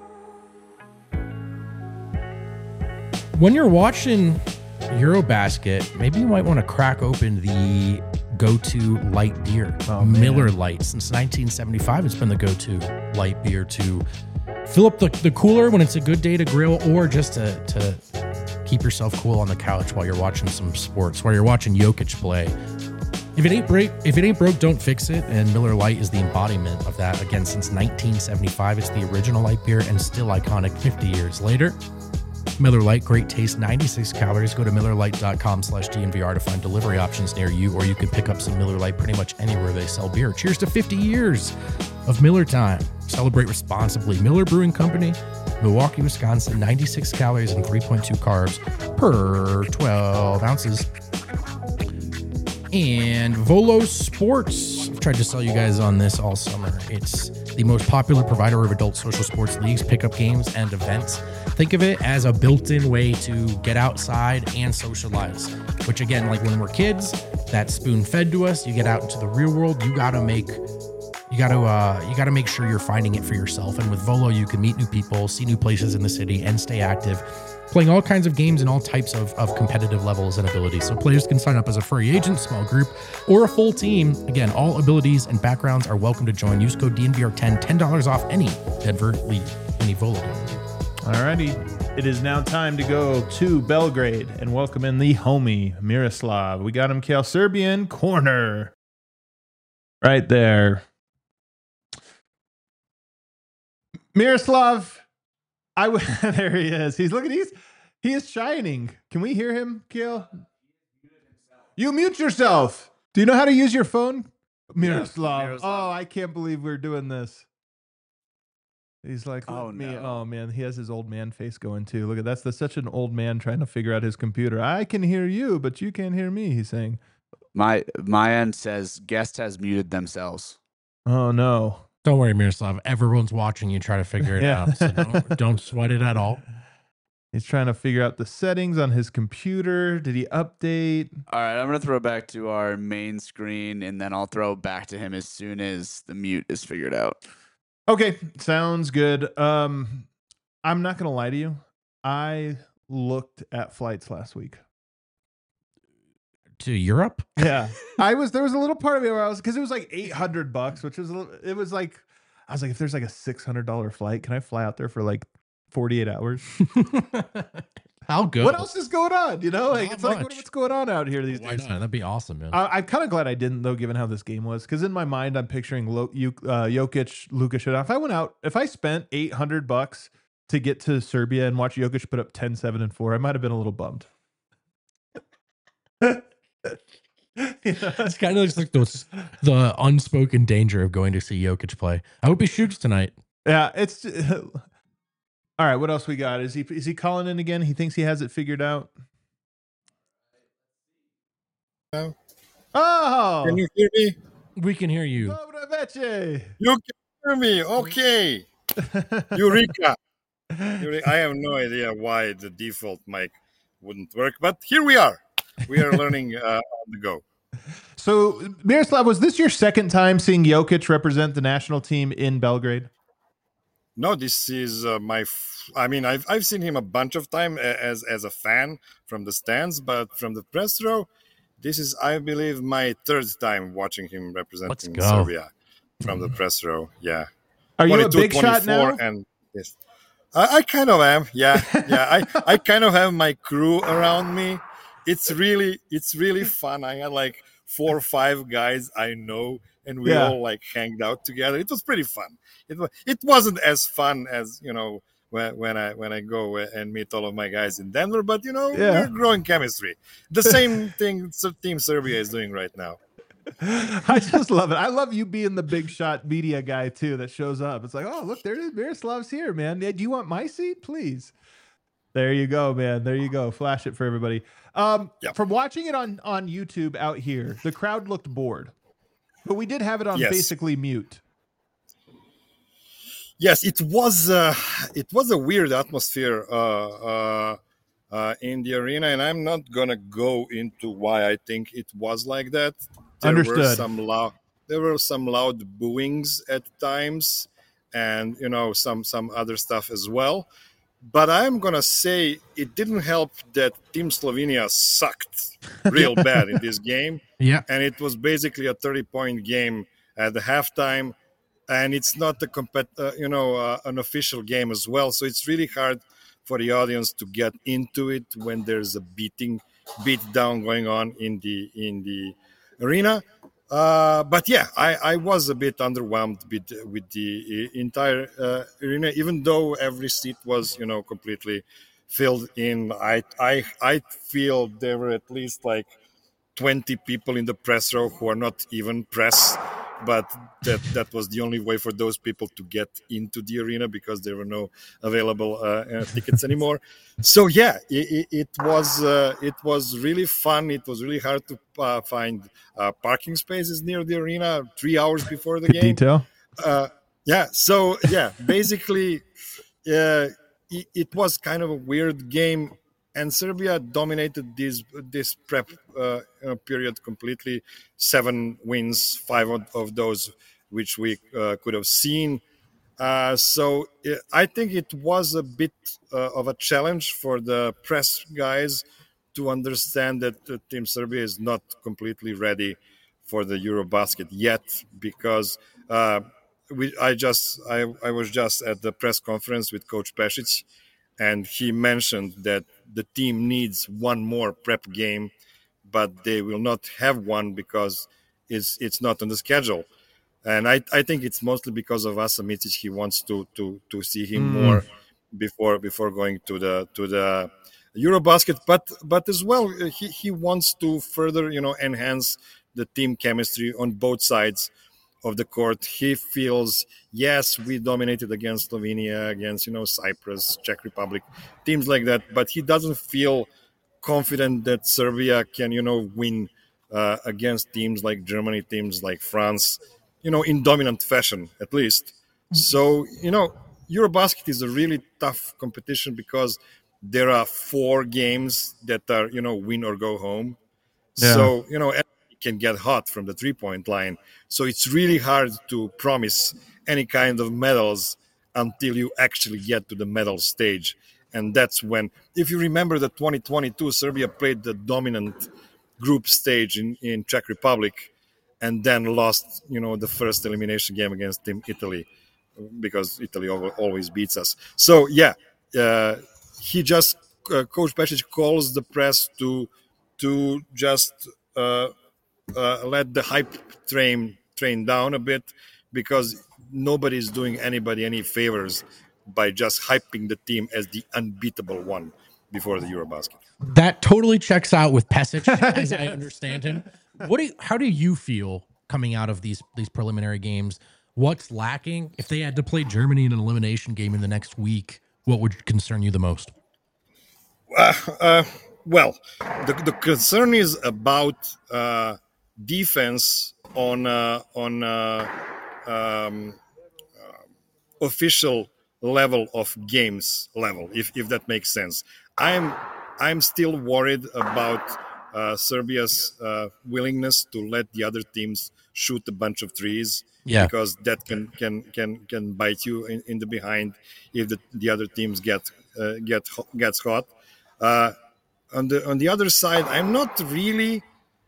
When you're watching Eurobasket, maybe you might want to crack open the go-to light beer, Oh, man. Miller Lite. Since nineteen seventy-five, it's been the go-to light beer to fill up the, the cooler when it's a good day to grill, or just to, to keep yourself cool on the couch while you're watching some sports, while you're watching Jokic play. If it ain't break, if it ain't broke, don't fix it. And Miller Lite is the embodiment of that. Again, since nineteen seventy-five, it's the original light beer and still iconic fifty years later. Miller Lite, great taste, ninety-six calories. Go to Miller Lite dot com slash D N V R to find delivery options near you, or you can pick up some Miller Lite pretty much anywhere they sell beer. Cheers to fifty years of Miller time. Celebrate responsibly. Miller Brewing Company, Milwaukee, Wisconsin, ninety-six calories and three point two carbs per twelve ounces. And Volo Sports. I've tried tried to sell you guys on this all summer. It's the most popular provider of adult social sports leagues, pickup games, and events. Think of it as a built-in way to get outside and socialize, which again, like when we're kids, that's spoon-fed to us. You get out into the real world, you gotta make you gotta uh, you gotta make sure you're finding it for yourself. And with Volo, you can meet new people, see new places in the city, and stay active, playing all kinds of games and all types of, of competitive levels and abilities. So players can sign up as a free agent, small group, or a full team. Again, all abilities and backgrounds are welcome to join. Use code D N V R ten, ten dollars off any Denver League, any Volo game. Alrighty, it is now time to go to Belgrade and welcome in the homie Miroslav. We got him, Kale Serbian corner, right there. Miroslav, I w- there he is. He's looking. He's he is shining. Can we hear him, Kale? You mute yourself. Do you know how to use your phone, Miroslav? Miroslav. Oh, I can't believe we're doing this. He's like, oh oh, me. no. Oh man, he has his old man face going too. Look at that's the, such an old man trying to figure out his computer. I can hear you, but you can't hear me. He's saying, My my end says guest has muted themselves. oh no. Don't worry, Miroslav. Everyone's watching you try to figure it Yeah. out. So don't, don't sweat it at all. He's trying to figure out the settings on his computer. Did he update? All right, I'm gonna throw back to our main screen, and then I'll throw back to him as soon as the mute is figured out. Okay, sounds good. Um, I'm not gonna lie to you. I looked at flights last week. To Europe? Yeah, I was. There was a little part of me where I was because it was like eight hundred bucks, which was a little, it was like I was like, if there's like a six hundred dollar flight, can I fly out there for like forty eight hours? I'll go. What else is going on? You know, like Not it's like what, much. what's going on out here these Why days? not? That'd be awesome, man. I, I'm kind of glad I didn't though, given how this game was, because in my mind I'm picturing Lo, you, uh, Jokic, Luka shootout. If I went out, if I spent eight hundred bucks to get to Serbia and watch Jokic put up ten, seven, and four, I might have been a little bummed. You know? It's kind of looks like those, the unspoken danger of going to see Jokic play. I hope he shoots tonight. Yeah, it's all right. What else we got? Is he is he calling in again? He thinks he has it figured out. No. Oh, Can you hear me? We can hear you. Dobra večer. You can hear me. Okay. Eureka. Eure- I have no idea why the default mic wouldn't work, but here we are. We are learning uh, on the go. So, Miroslav, was this your second time seeing Jokic represent the national team in Belgrade? No, this is uh, my. F- I mean, I've I've seen him a bunch of time as as a fan from the stands, but from the press row, this is, I believe, my third time watching him representing go. Serbia from the press row. Yeah. Are you a twenty-two, big shot now? twenty-four, and yes, I, I kind of am. Yeah, yeah. I, I kind of have my crew around me. It's really it's really fun. I had like four or five guys I know, and we Yeah. all like hanged out together. It was pretty fun. It was it wasn't as fun as you know when when I when I go and meet all of my guys in Denver, but you know Yeah. we're growing chemistry. The same thing Team Serbia is doing right now. I just love it. I love you being the big shot media guy too that shows up. It's like, oh, look, there it is. Miroslav's here, man. Do you want my seat, please? There you go, man. There you go. Flash it for everybody. Um, Yep. From watching it on on YouTube out here, the crowd looked bored, but we did have it on Yes. basically mute. Yes, it was uh, it was a weird atmosphere uh, uh, uh, in the arena, and I'm not gonna go into why I think it was like that. There were Understood. some loud there were some loud booings at times, and you know some some other stuff as well. But I'm gonna say it didn't help that Team Slovenia sucked real bad in this game, Yeah. and it was basically a thirty point game at the halftime. And it's not a compet- uh, you know, uh, an official game as well. So it's really hard for the audience to get into it when there's a beating, beat down going on in the in the arena. Uh, but yeah, I, I was a bit underwhelmed with with the entire uh, arena, even though every seat was you know completely filled in. I I I feel there were at least like twenty people in the press row who are not even press, but that that was the only way for those people to get into the arena because there were no available uh, uh, tickets anymore. So yeah, it, it was uh, it was really fun. It was really hard to uh, find uh, parking spaces near the arena three hours before the Good game. detail. Uh, yeah. So yeah, basically, uh, it, it was kind of a weird game, and Serbia dominated this this prep uh, uh, period completely. Seven wins, five of, of those which we uh, could have seen. Uh, so uh, I think it was a bit uh, of a challenge for the press guys to understand that uh, Team Serbia is not completely ready for the Eurobasket yet, because uh, we I just I, I was just at the press conference with Coach Pešić, and he mentioned that the team needs one more prep game, but they will not have one because it's it's not on the schedule. And I, I think it's mostly because of Asa Micic. He wants to to to see him Mm. more before before going to the to the Eurobasket. But but as well, uh, he, he wants to further you know enhance the team chemistry on both sides of the court. He feels, yes, we dominated against Slovenia, against you know Cyprus, Czech Republic, teams like that. But he doesn't feel confident that Serbia can you know win uh, against teams like Germany, teams like France, you know, in dominant fashion, at least. So, you know, Eurobasket is a really tough competition because there are four games that are, you know, win or go home. Yeah. So, you know, everybody can get hot from the three-point line. So it's really hard to promise any kind of medals until you actually get to the medal stage. And that's when, if you remember the twenty twenty-two, Serbia played the dominant group stage in, in Czech Republic, and then lost, you know, the first elimination game against Team Italy, because Italy always beats us. So yeah, uh, he just uh, Coach Pešić calls the press to to just uh, uh, let the hype train train down a bit, because nobody's doing anybody any favors by just hyping the team as the unbeatable one before the Eurobasket. That totally checks out with Pešić, as I understand him. What do you, how do you feel coming out of these these preliminary games? What's lacking? If they had to play Germany in an elimination game in the next week, what would concern you the most? Uh, uh, well, the, the concern is about uh, defense on uh, on uh, um, uh, official level of games level, if if that makes sense. I'm I'm still worried about uh, Serbia's uh, willingness to let the other teams shoot a bunch of threes, Yeah. because that can can can can bite you in, in the behind if the, the other teams get uh, get gets hot. Uh, on the on the other side, I'm not really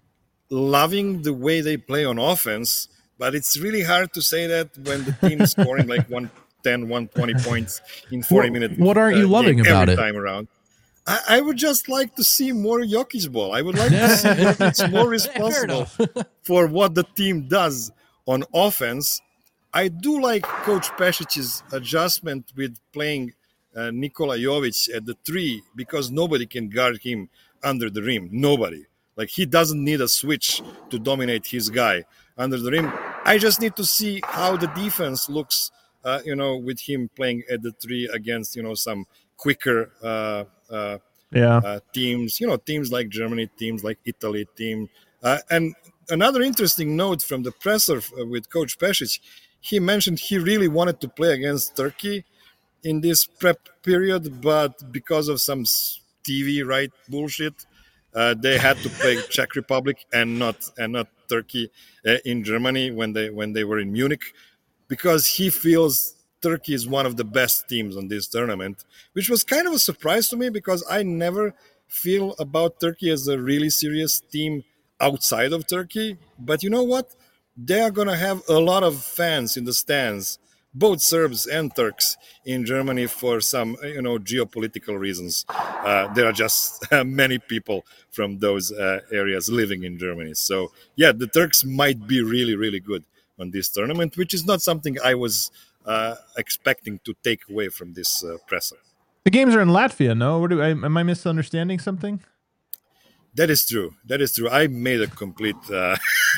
loving the way they play on offense, but it's really hard to say that when the team is scoring like one ten, one twenty points in forty What- minutes. what aren't you loving game about every it? time around. I, I would just like to see more Jokic ball. I would like to see Jokic more responsible for what the team does on offense. I do like Coach Pešic's adjustment with playing uh, Nikola Jovic at the three, because nobody can guard him under the rim. Nobody. Like, he doesn't need a switch to dominate his guy under the rim. I just need to see how the defense looks, uh, you know, with him playing at the three against, you know, some quicker uh, uh, Yeah. uh, teams, you know, teams like Germany, teams like Italy, team. Uh, and another interesting note from the presser uh, with Coach Pešić, he mentioned he really wanted to play against Turkey in this prep period, but because of some T V right bullshit, uh, they had to play Czech Republic and not and not Turkey uh, in Germany when they when they were in Munich, because he feels Turkey is one of the best teams on this tournament, which was kind of a surprise to me, because I never feel about Turkey as a really serious team outside of Turkey. But you know what? They are going to have a lot of fans in the stands, both Serbs and Turks in Germany, for some, you know, geopolitical reasons. Uh, there are just many people from those uh, areas living in Germany. So, yeah, the Turks might be really, really good on this tournament, which is not something I was uh, expecting to take away from this uh, presser. The games are in Latvia, no? What do I, am I misunderstanding something? That is true. That is true. I made a complete uh,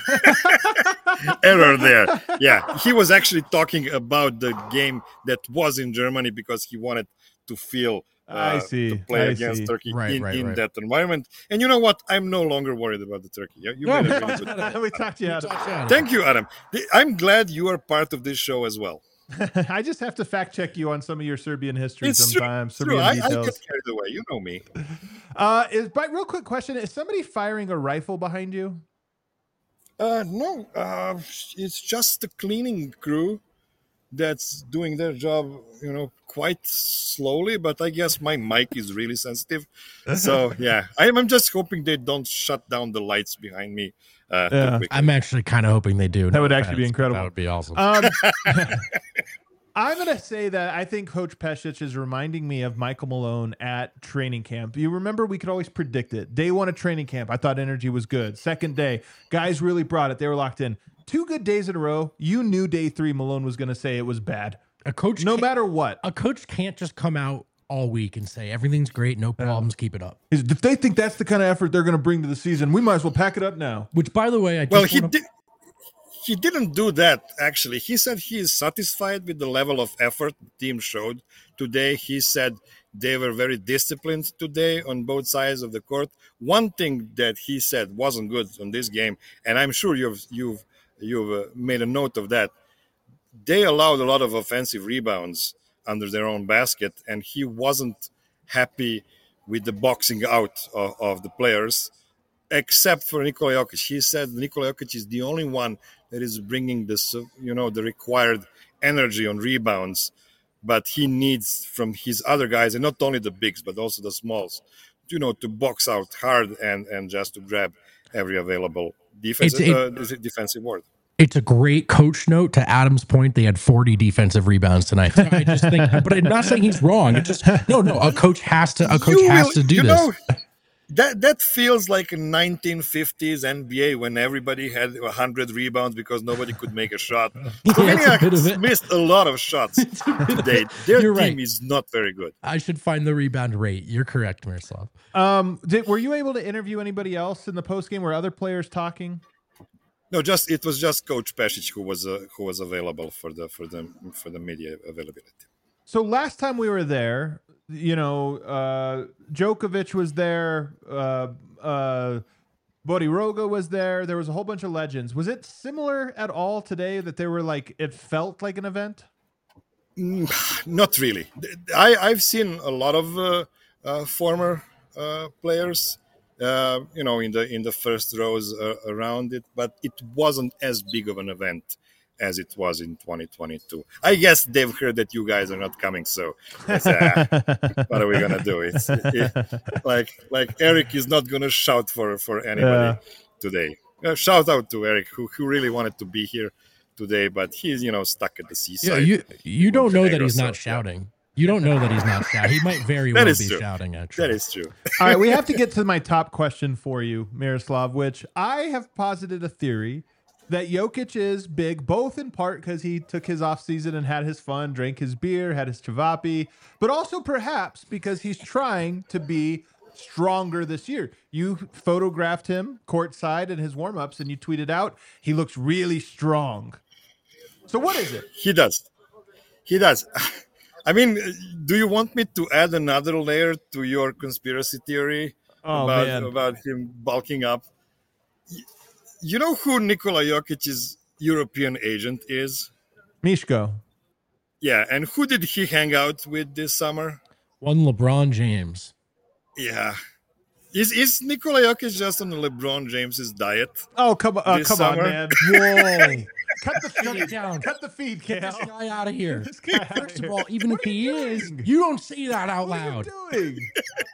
error there. Yeah, he was actually talking about the game that was in Germany because he wanted to feel I uh, see. to play I against see. Turkey Right, in, right, in right. that environment. And you know what? I'm no longer worried about the Turkey. You, you No, made a we really talked good. about it. we talked you out We of talked you out of Thank you, Adam. I'm glad you are part of this show as well. it. I just have to fact check you on some of your Serbian history It's true. sometimes. It's true. Serbian I, I get details. carried away. You know me. Uh, is but real quick question: is somebody firing a rifle behind you? Uh, no, uh, it's just the cleaning crew that's doing their job, you know, quite slowly. But I guess my mic is really sensitive, so yeah, I'm, I'm just hoping they don't shut down the lights behind me uh, Yeah. too quickly. I'm actually kind of hoping they do. That no would actually be offense, but incredible. That would be awesome. Um, I'm going to say that I think Coach Pesic is reminding me of Michael Malone at training camp. You remember we could always predict it. Day one of training camp, I thought energy was good. Second day, guys really brought it. They were locked in. Two good days in a row. You knew day three Malone was going to say it was bad. a coach, No can't- matter what. a coach can't just come out all week and say everything's great, no problems, keep it up. If they think that's the kind of effort they're going to bring to the season, we might as well pack it up now. Which, by the way, I just Well, he wanna- did. He didn't do that, actually. He said he is satisfied with the level of effort the team showed today. He said they were very disciplined today on both sides of the court. One thing that he said wasn't good on this game, and I'm sure you've you've you've uh, made a note of that. They allowed a lot of offensive rebounds under their own basket, and he wasn't happy with the boxing out of, of the players, except for Nikola Jokic. He said Nikola Jokic is the only one that is bringing this, you know, the required energy on rebounds, but he needs from his other guys, and not only the bigs, but also the smalls, you know, to box out hard and, and just to grab every available defensive, It's- it- uh, defensive board. It's a great coach note. To Adam's point, they had forty defensive rebounds tonight. So I just think, but I'm not saying he's wrong. It's just no, no. A coach has to. A coach You has will- to do you this. know, that that feels like a nineteen fifties N B A when everybody had one hundred rebounds because nobody could make a shot. Yeah, it's a bit of Slovenia it. missed a lot of shots today. Their You're team right. is not very good. I should find the rebound rate. You're correct, Miroslav. Um, did, were you able to interview anybody else in the post game? Were other players talking? No, just it was just Coach Pesic who was uh, who was available for the for the for the media availability. So last time we were there, you know, uh, Djokovic was there, uh, uh, Bodiroga was there. There was a whole bunch of legends. Was it similar at all today that they were like, it felt like an event? Not really. I, I've seen a lot of uh, uh, former uh, players, uh, you know, in the in the first rows uh, around it, but it wasn't as big of an event as it was in twenty twenty-two. I guess they've heard that you guys are not coming, so it's, uh, what are we gonna do? It's it, like like Eric is not gonna shout for for anybody Yeah. today. Uh, shout out to Eric, who who really wanted to be here today, but he's you know stuck at the seaside. Yeah, you you don't know that Montenegro, he's not so, shouting. You don't know that he's not shouting. He might very That well is be true. shouting. Actually, That is true. All right, we have to get to my top question for you, Miroslav, which I have posited a theory that Jokic is big, both in part because he took his offseason and had his fun, drank his beer, had his chavapi, but also perhaps because he's trying to be stronger this year. You photographed him courtside in his warm-ups and you tweeted out, he looks really strong. So what is it? He does. He does. I mean, do you want me to add another layer to your conspiracy theory Oh, about, man. about him bulking up? Y- You know who Nikola Jokic's European agent is? Mishko. Yeah, and who did he hang out with this summer? one LeBron James. Yeah. Is is Nikola Jokic just on LeBron James's diet? Oh, come on, uh, This come on, summer? man. Whoa! Cut the Shut it feed. down. Cut the feed, Get Cal. this guy out of here. This guy outta First of here. all, even What if are you he is, doing? you don't say that out What are loud. you doing?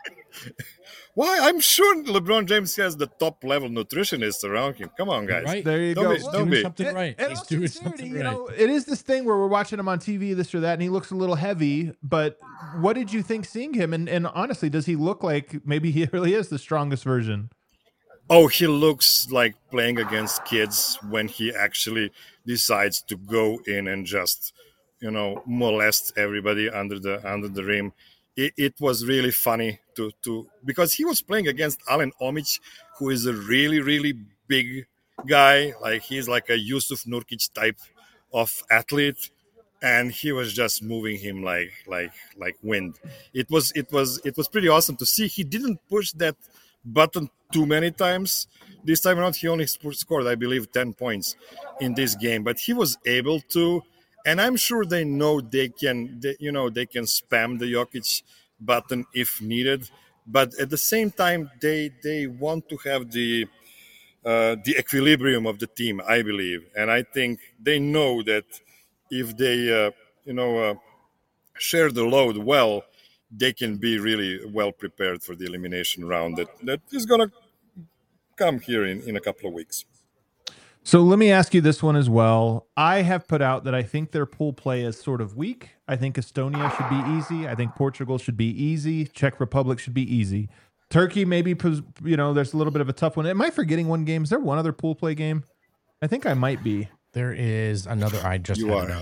Why? I'm sure LeBron James has the top level nutritionists around him. Come on, guys. Right? There you Don't go. be- He's don't doing be. something And- right. and He's all doing sincerity, something you right. know, it is this thing where we're watching him on T V, this or that, and he looks a little heavy. But what did you think seeing him? And, and honestly, does he look like maybe he really is the strongest version? Oh, he looks like playing against kids when he actually decides to go in and just, you know, molest everybody under the under the rim. it, it was really funny to to because he was playing against Alen Omic, who is a really really big guy. Like he's like a Yusuf Nurkic type of athlete, and he was just moving him like like like wind. It was it was it was pretty awesome to see. He didn't push that button too many times. This time around, he only scored, I believe, ten points in this game, but he was able to. And I'm sure they know they can, they, you know, they can spam the Jokic button if needed. But at the same time, they they want to have the uh, the equilibrium of the team, I believe, and I think they know that if they, uh, you know, uh, share the load well, they can be really well prepared for the elimination round that, that is going to come here in, in a couple of weeks. So let me ask you this one as well. I have put out that I think their pool play is sort of weak. I think Estonia should be easy. I think Portugal should be easy. Czech Republic should be easy. Turkey, maybe, you know, there's a little bit of a tough one. Am I forgetting one game? Is there one other pool play game? I think I might be. There is another. I just you had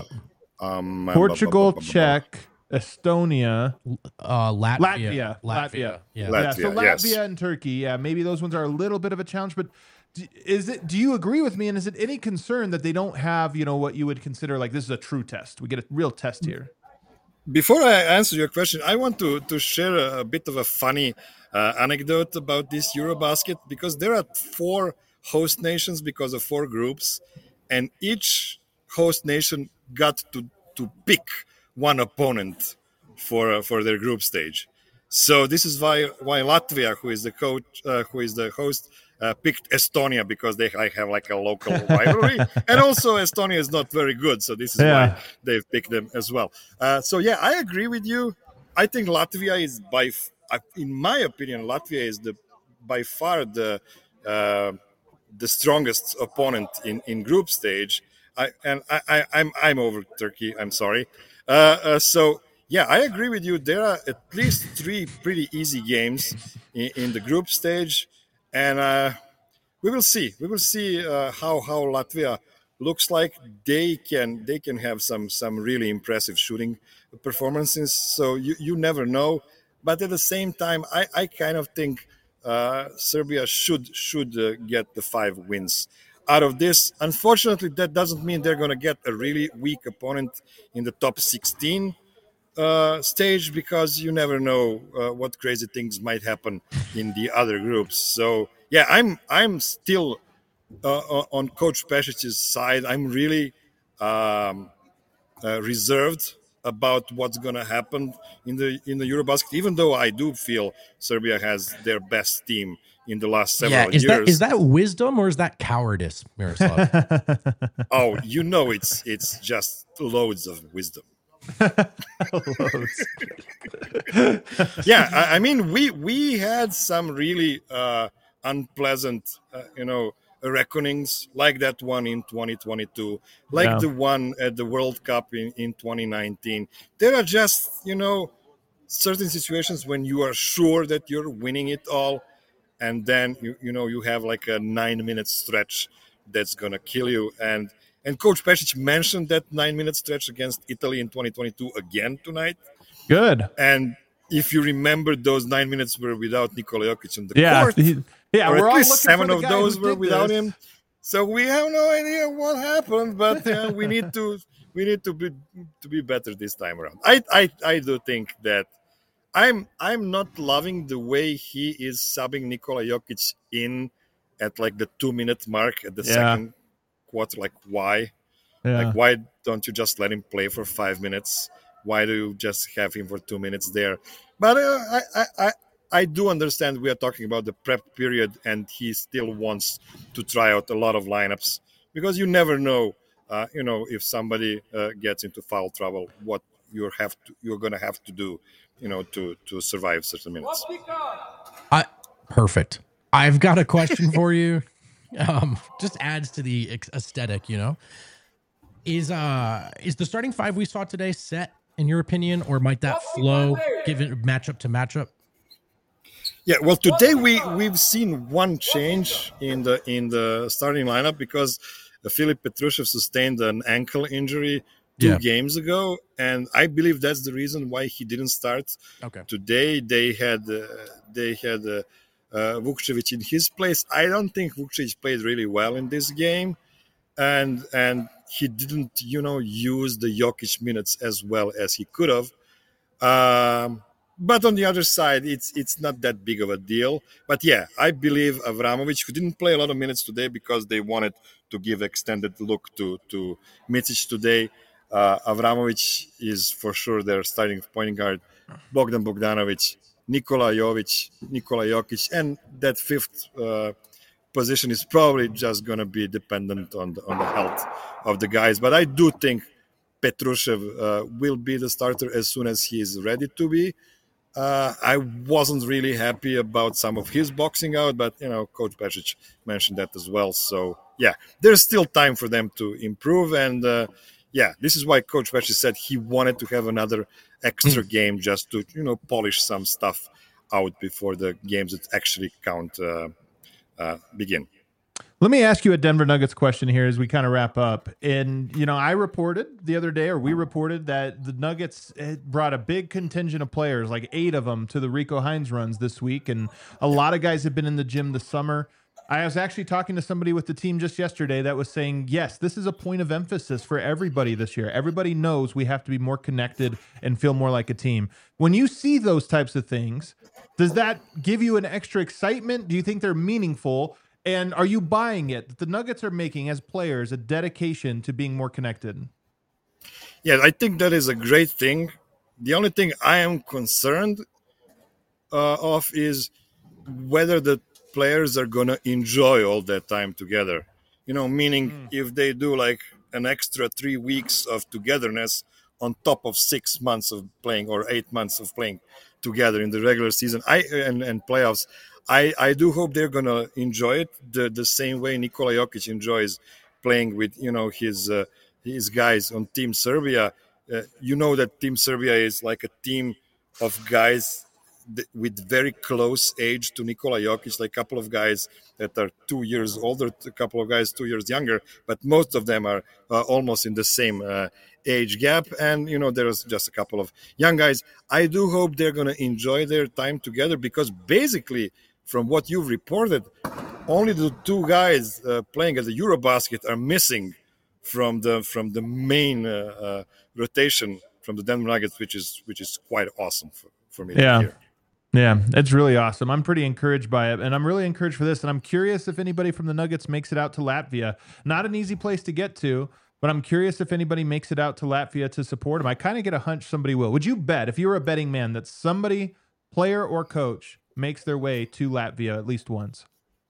are. it up. Um, Portugal, Czech, Estonia, uh, Latvia, Latvia, Latvia, Latvia. yeah. Latvia. Yeah, so Latvia yes. and Turkey, yeah, maybe those ones are a little bit of a challenge, but d- is it? Do you agree with me? And is it any concern that they don't have, you know, what you would consider like this is a true test? We get a real test here. Before I answer your question, I want to, to share a, a bit of a funny uh, anecdote about this Eurobasket, because there are four host nations because of four groups, and each host nation got to, to pick one opponent for uh, for their group stage. So this is why why Latvia, who is the coach, uh, who is the host, uh, picked Estonia, because they have like a local rivalry, and also Estonia is not very good, so this is Yeah. why they've picked them as well. Uh, so yeah, I agree with you. I think Latvia is by, f- in my opinion, Latvia is the by far the uh, the strongest opponent in, in group stage. I and I, I I'm I'm over Turkey. I'm sorry. Uh, uh, so. Yeah, I agree with you. There are at least three pretty easy games in, in the group stage, and uh, we will see. We will see uh, how how Latvia looks like. They can they can have some some really impressive shooting performances. So you, you never know. But at the same time, I, I kind of think uh, Serbia should should uh, get the five wins out of this. Unfortunately, that doesn't mean they're going to get a really weak opponent in the top sixteen. Uh, stage, because you never know uh, what crazy things might happen in the other groups. So yeah, I'm I'm still uh, on Coach Pesic's side. I'm really um, uh, reserved about what's going to happen in the in the Eurobasket, even though I do feel Serbia has their best team in the last several Yeah, is years. that is that wisdom or is that cowardice, Miroslav? Oh, you know, it's it's just loads of wisdom. Yeah, I, I mean, we we had some really uh, unpleasant, uh, you know, reckonings, like that one in twenty twenty-two, like Yeah. the one at the World Cup in, in twenty nineteen. There are just, you know, certain situations when you are sure that you're winning it all, and then you you know you have like a nine minute stretch that's gonna kill you. And and Coach Pesic mentioned that nine minute stretch against Italy in twenty twenty-two again tonight. Good. And if you remember, those nine minutes were without Nikola Jokic on the Yeah. court. he- yeah. or We're at all least looking seven for the of guy those who were did without this. him. So we have no idea what happened, but uh, we need to we need to be to be better this time around. I I, I do think that I'm I'm not loving the way he is subbing Nikola Jokic in at like the two minute mark at the Yeah. second quarter. Like why? Yeah. Like why don't you just let him play for five minutes? Why do you just have him for two minutes there? But uh, I, I, I, I do understand we are talking about the prep period, and he still wants to try out a lot of lineups, because you never know, uh, you know, if somebody uh, gets into foul trouble, what you have to, you're going to have to do, you know, to to survive certain minutes. I perfect. I've got a question for you. Um, just adds to the ex- aesthetic, you know. Is uh is the starting five we saw today set in your opinion, or might that flow given matchup to matchup? Yeah, well, today we we've seen one change in the in the starting lineup, because Filip Petrushev sustained an ankle injury two Yeah. games ago, and I believe that's the reason why he didn't start Okay. today. They had uh, they had uh, uh, Vukcevic in his place. I don't think Vukcevic played really well in this game, and and he didn't, you know, use the Jokic minutes as well as he could have. Um, but on the other side, it's it's not that big of a deal. But yeah, I believe Avramovic, who didn't play a lot of minutes today because they wanted to give extended look to to Micic today. Uh, Avramovic is for sure their starting point guard. Bogdan Bogdanovic, Nikola Jovic, Nikola Jokic, and that fifth uh, position is probably just going to be dependent on the, on the health of the guys. But I do think Petrushev uh, will be the starter as soon as he is ready to be. Uh, I wasn't really happy about some of his boxing out, but, you know, Coach Pešić mentioned that as well. So, yeah, there's still time for them to improve. And, uh, yeah, this is why Coach Pešić said he wanted to have another extra game just to, you know, polish some stuff out before the games that actually count uh, uh, begin. Let me ask you a Denver Nuggets question here as we kind of wrap up. And, you know, I reported the other day, or we reported, that the Nuggets brought a big contingent of players, like eight of them, to the Rico Hines runs this week. And a lot of guys have been in the gym this summer. I was actually talking to somebody with the team just yesterday that was saying, yes, this is a point of emphasis for everybody this year. Everybody knows we have to be more connected and feel more like a team. When you see those types of things, does that give you an extra excitement? Do you think they're meaningful? And are you buying it that the Nuggets are making as players a dedication to being more connected? Yeah, I think that is a great thing. The only thing I am concerned uh, of is whether the players are going to enjoy all that time together. You know, meaning mm. if they do like an extra three weeks of togetherness on top of six months of playing or eight months of playing together in the regular season I and, and playoffs, I, I do hope they're going to enjoy it the, the same way Nikola Jokic enjoys playing with, you know, his uh, his guys on Team Serbia. Uh, you know that Team Serbia is like a team of guys th- with very close age to Nikola Jokic, like a couple of guys that are two years older, a couple of guys two years younger, but most of them are uh, almost in the same uh, age gap. And, you know, there's just a couple of young guys. I do hope they're going to enjoy their time together because basically, from what you've reported, only the two guys uh, playing at the Eurobasket are missing from the from the main uh, uh, rotation from the Denver Nuggets, which is which is quite awesome for, for me yeah. to hear. Yeah, it's really awesome. I'm pretty encouraged by it, and I'm really encouraged for this. And I'm curious if anybody from the Nuggets makes it out to Latvia. Not an easy place to get to, but I'm curious if anybody makes it out to Latvia to support them. I kind of get a hunch somebody will. Would you bet, if you were a betting man, that somebody, player or coach, makes their way to Latvia at least once?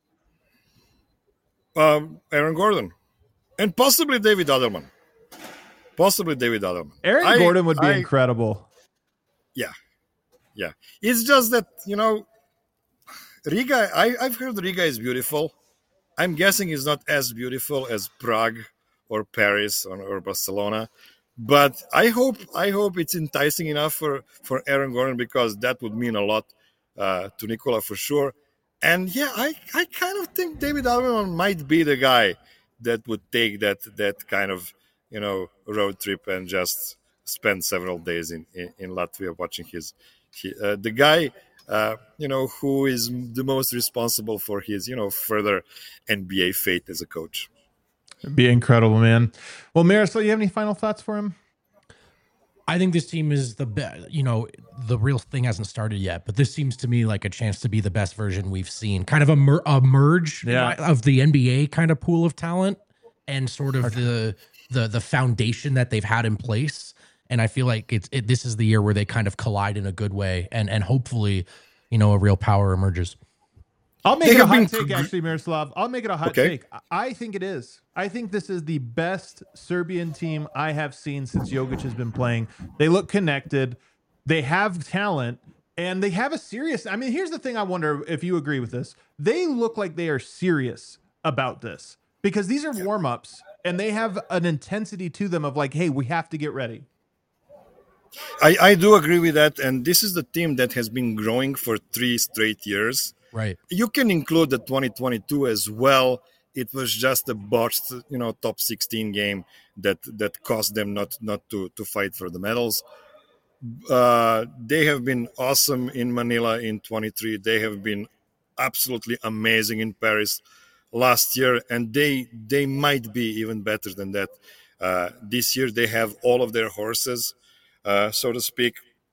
Um, Aaron Gordon. And possibly David Adelman. Possibly David Adelman. Aaron I, Gordon would be I, incredible. Yeah. Yeah. It's just that, you know, Riga, I, I've heard Riga is beautiful. I'm guessing it's not as beautiful as Prague or Paris or, or Barcelona. But I hope I hope it's enticing enough for, for Aaron Gordon because that would mean a lot uh, to Nikola for sure. And yeah, I, I kind of think David Adelman might be the guy that would take that that kind of, you know, road trip and just spend several days in, in, in Latvia watching his, he, uh, the guy, uh, you know, who is the most responsible for his, you know, further N B A fate as a coach. It'd be incredible, man. Well, Miroslav, you have any final thoughts for him? I think this team is the best. You know, the real thing hasn't started yet, but this seems to me like a chance to be the best version we've seen. Kind of a, mer- a merge yeah. of the N B A kind of pool of talent and sort of the the the foundation that they've had in place. And I feel like it's it, this is the year where they kind of collide in a good way, and and hopefully, you know, a real power emerges. I'll make They it a have hot been- take, actually, Miroslav. I'll make it a hot Okay. take. I think it is. I think this is the best Serbian team I have seen since Jokic has been playing. They look connected. They have talent. And they have a serious... I mean, here's the thing I wonder if you agree with this. They look like they are serious about this. Because these are warm-ups, and they have an intensity to them of like, hey, we have to get ready. I, I do agree with that. And this is the team that has been growing for three straight years. Right. You can include the twenty twenty-two as well it was just a botched, you know, top sixteen game that that cost them not not to to fight for the medals. Uh, they have been awesome in Manila in twenty-three. They have been absolutely amazing in Paris last year, and they they might be even better than that uh, this year. They have all of their horses, uh, so to speak.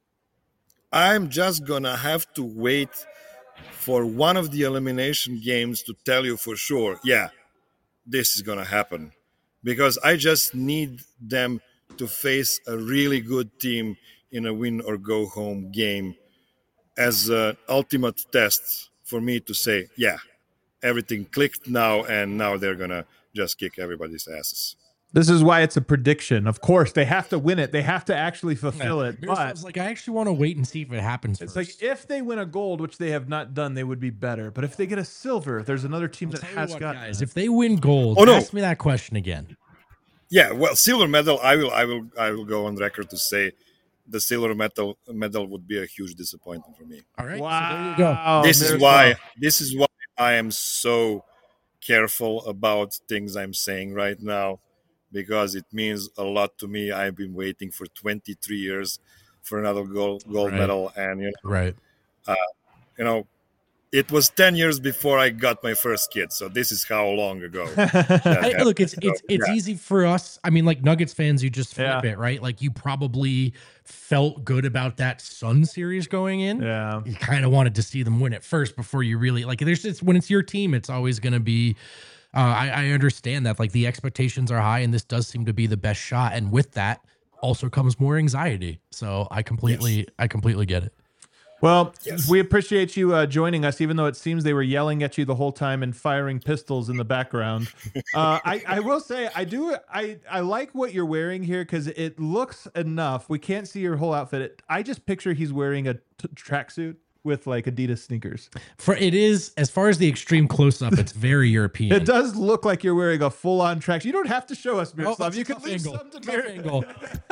I'm just gonna have to wait for one of the elimination games to tell you for sure, yeah, this is gonna happen, because I just need them to face a really good team in a win or go home game as an ultimate test for me to say, yeah, everything clicked now, and now they're gonna just kick everybody's asses. This is why it's a prediction. Of course, they have to win it. They have to actually fulfill yeah. it. But it's like, I actually want to wait and see if it happens. It's first. like if they win a gold, which they have not done, they would be better. But if they get a silver, there's another team I'll that tell you has what, got. guys, if they win gold, Oh, no. ask me that question again. Yeah, well, silver medal. I will, I will, I will go on record to say the silver medal medal would be a huge disappointment for me. All right, Wow. so there you go. This is There's why. one. This is why I am so careful about things I'm saying right now, because it means a lot to me. I've been waiting for twenty-three years for another gold gold Right. medal, and you know, Right. you know, it was ten years before I got my first kid. So this is how long ago. that Hey, happened. look, it's it's So, it's yeah. easy for us. I mean, like Nuggets fans, you just flip Yeah. it, right? Like you probably felt good about that Sun series going in. Yeah. You kind of wanted to see them win it first before you really like. There's it's when it's your team, it's always going to be. Uh, I, I understand that like the expectations are high, and this does seem to be the best shot. And with that, also comes more anxiety. So I completely, Yes. I completely get it. Well, Yes. we appreciate you uh, joining us, even though it seems they were yelling at you the whole time and firing pistols in the background. Uh, I, I will say, I do, I, I like what you're wearing here because it looks enough. We can't see your whole outfit. It, I just picture he's wearing a t- tracksuit with like Adidas sneakers. For it is as far as the extreme close up, it's very European. It does look like you're wearing a full on tracksuit. You don't have to show us, Oh, Miroslav. it's you a can tough leave angle. some to Tough Mir- angle.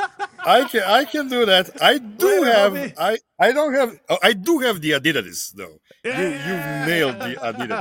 I can I can do that. I do Wait, have let me- I I don't have oh, I do have the Adidas though. You you nailed the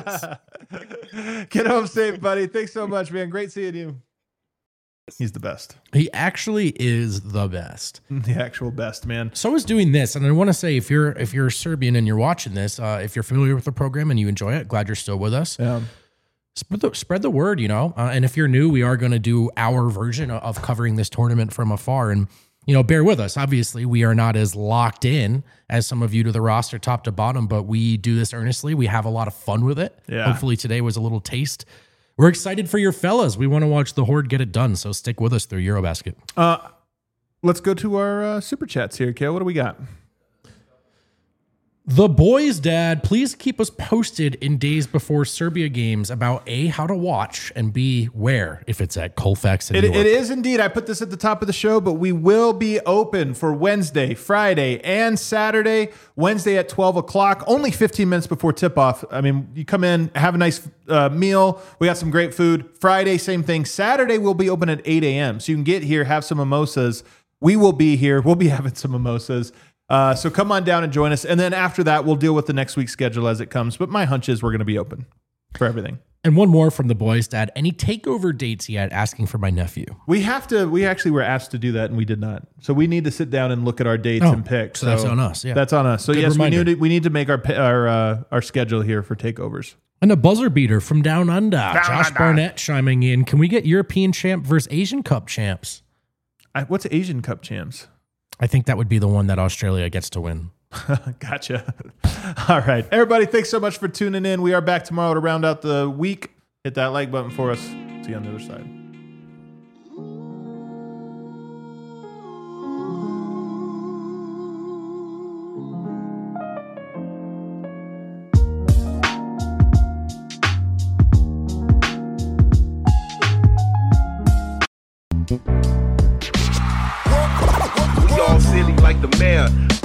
Adidas. Get home safe, buddy. Thanks so much, man. Great seeing you. He's the best. He actually is the best. The actual best, man. So is doing this, and I want to say if you're if you're Serbian and you're watching this, uh, if you're familiar with the program and you enjoy it, glad you're still with us. Yeah. Spread the spread the word, you know. Uh, and if you're new, we are going to do our version of covering this tournament from afar, and you know, bear with us. Obviously, we are not as locked in as some of you to the roster, top to bottom, but we do this earnestly. We have a lot of fun with it. Yeah. Hopefully, today was a little taste. We're excited for your fellas. We want to watch the Horde get it done, so stick with us through Eurobasket. Uh, let's go to our uh, super chats here, Kale. What do we got? The boys, Dad, please keep us posted in days before Serbia games about A, how to watch, and B, where, if it's at Colfax in It, New York. it is indeed. I put this at the top of the show, but we will be open for Wednesday, Friday, and Saturday. Wednesday at twelve o'clock, only fifteen minutes before tip off. I mean, you come in, have a nice uh, meal. We got some great food. Friday, same thing. Saturday, we'll be open at eight a.m. So you can get here, have some mimosas. We will be here. We'll be having some mimosas. Uh, so come on down and join us. And then after that, we'll deal with the next week's schedule as it comes. But my hunch is we're going to be open for everything. And one more from the boys, Dad. Any takeover dates yet? Asking for my nephew. We have to, we actually were asked to do that and we did not. So we need to sit down and look at our dates Oh, and pick. so that's on us, yeah. That's on us. So Good yes, reminder. we need to, we need to make our, pi- our, uh, our schedule here for takeovers. And a buzzer beater from Down Under. Josh Barnett chiming in. Can we get European champ versus Asian Cup champs? I, what's Asian Cup champs? I think that would be the one that Australia gets to win. Gotcha. All right. Everybody, thanks so much for tuning in. We are back tomorrow to round out the week. Hit that like button for us. See you on the other side. We all silly like the mayor.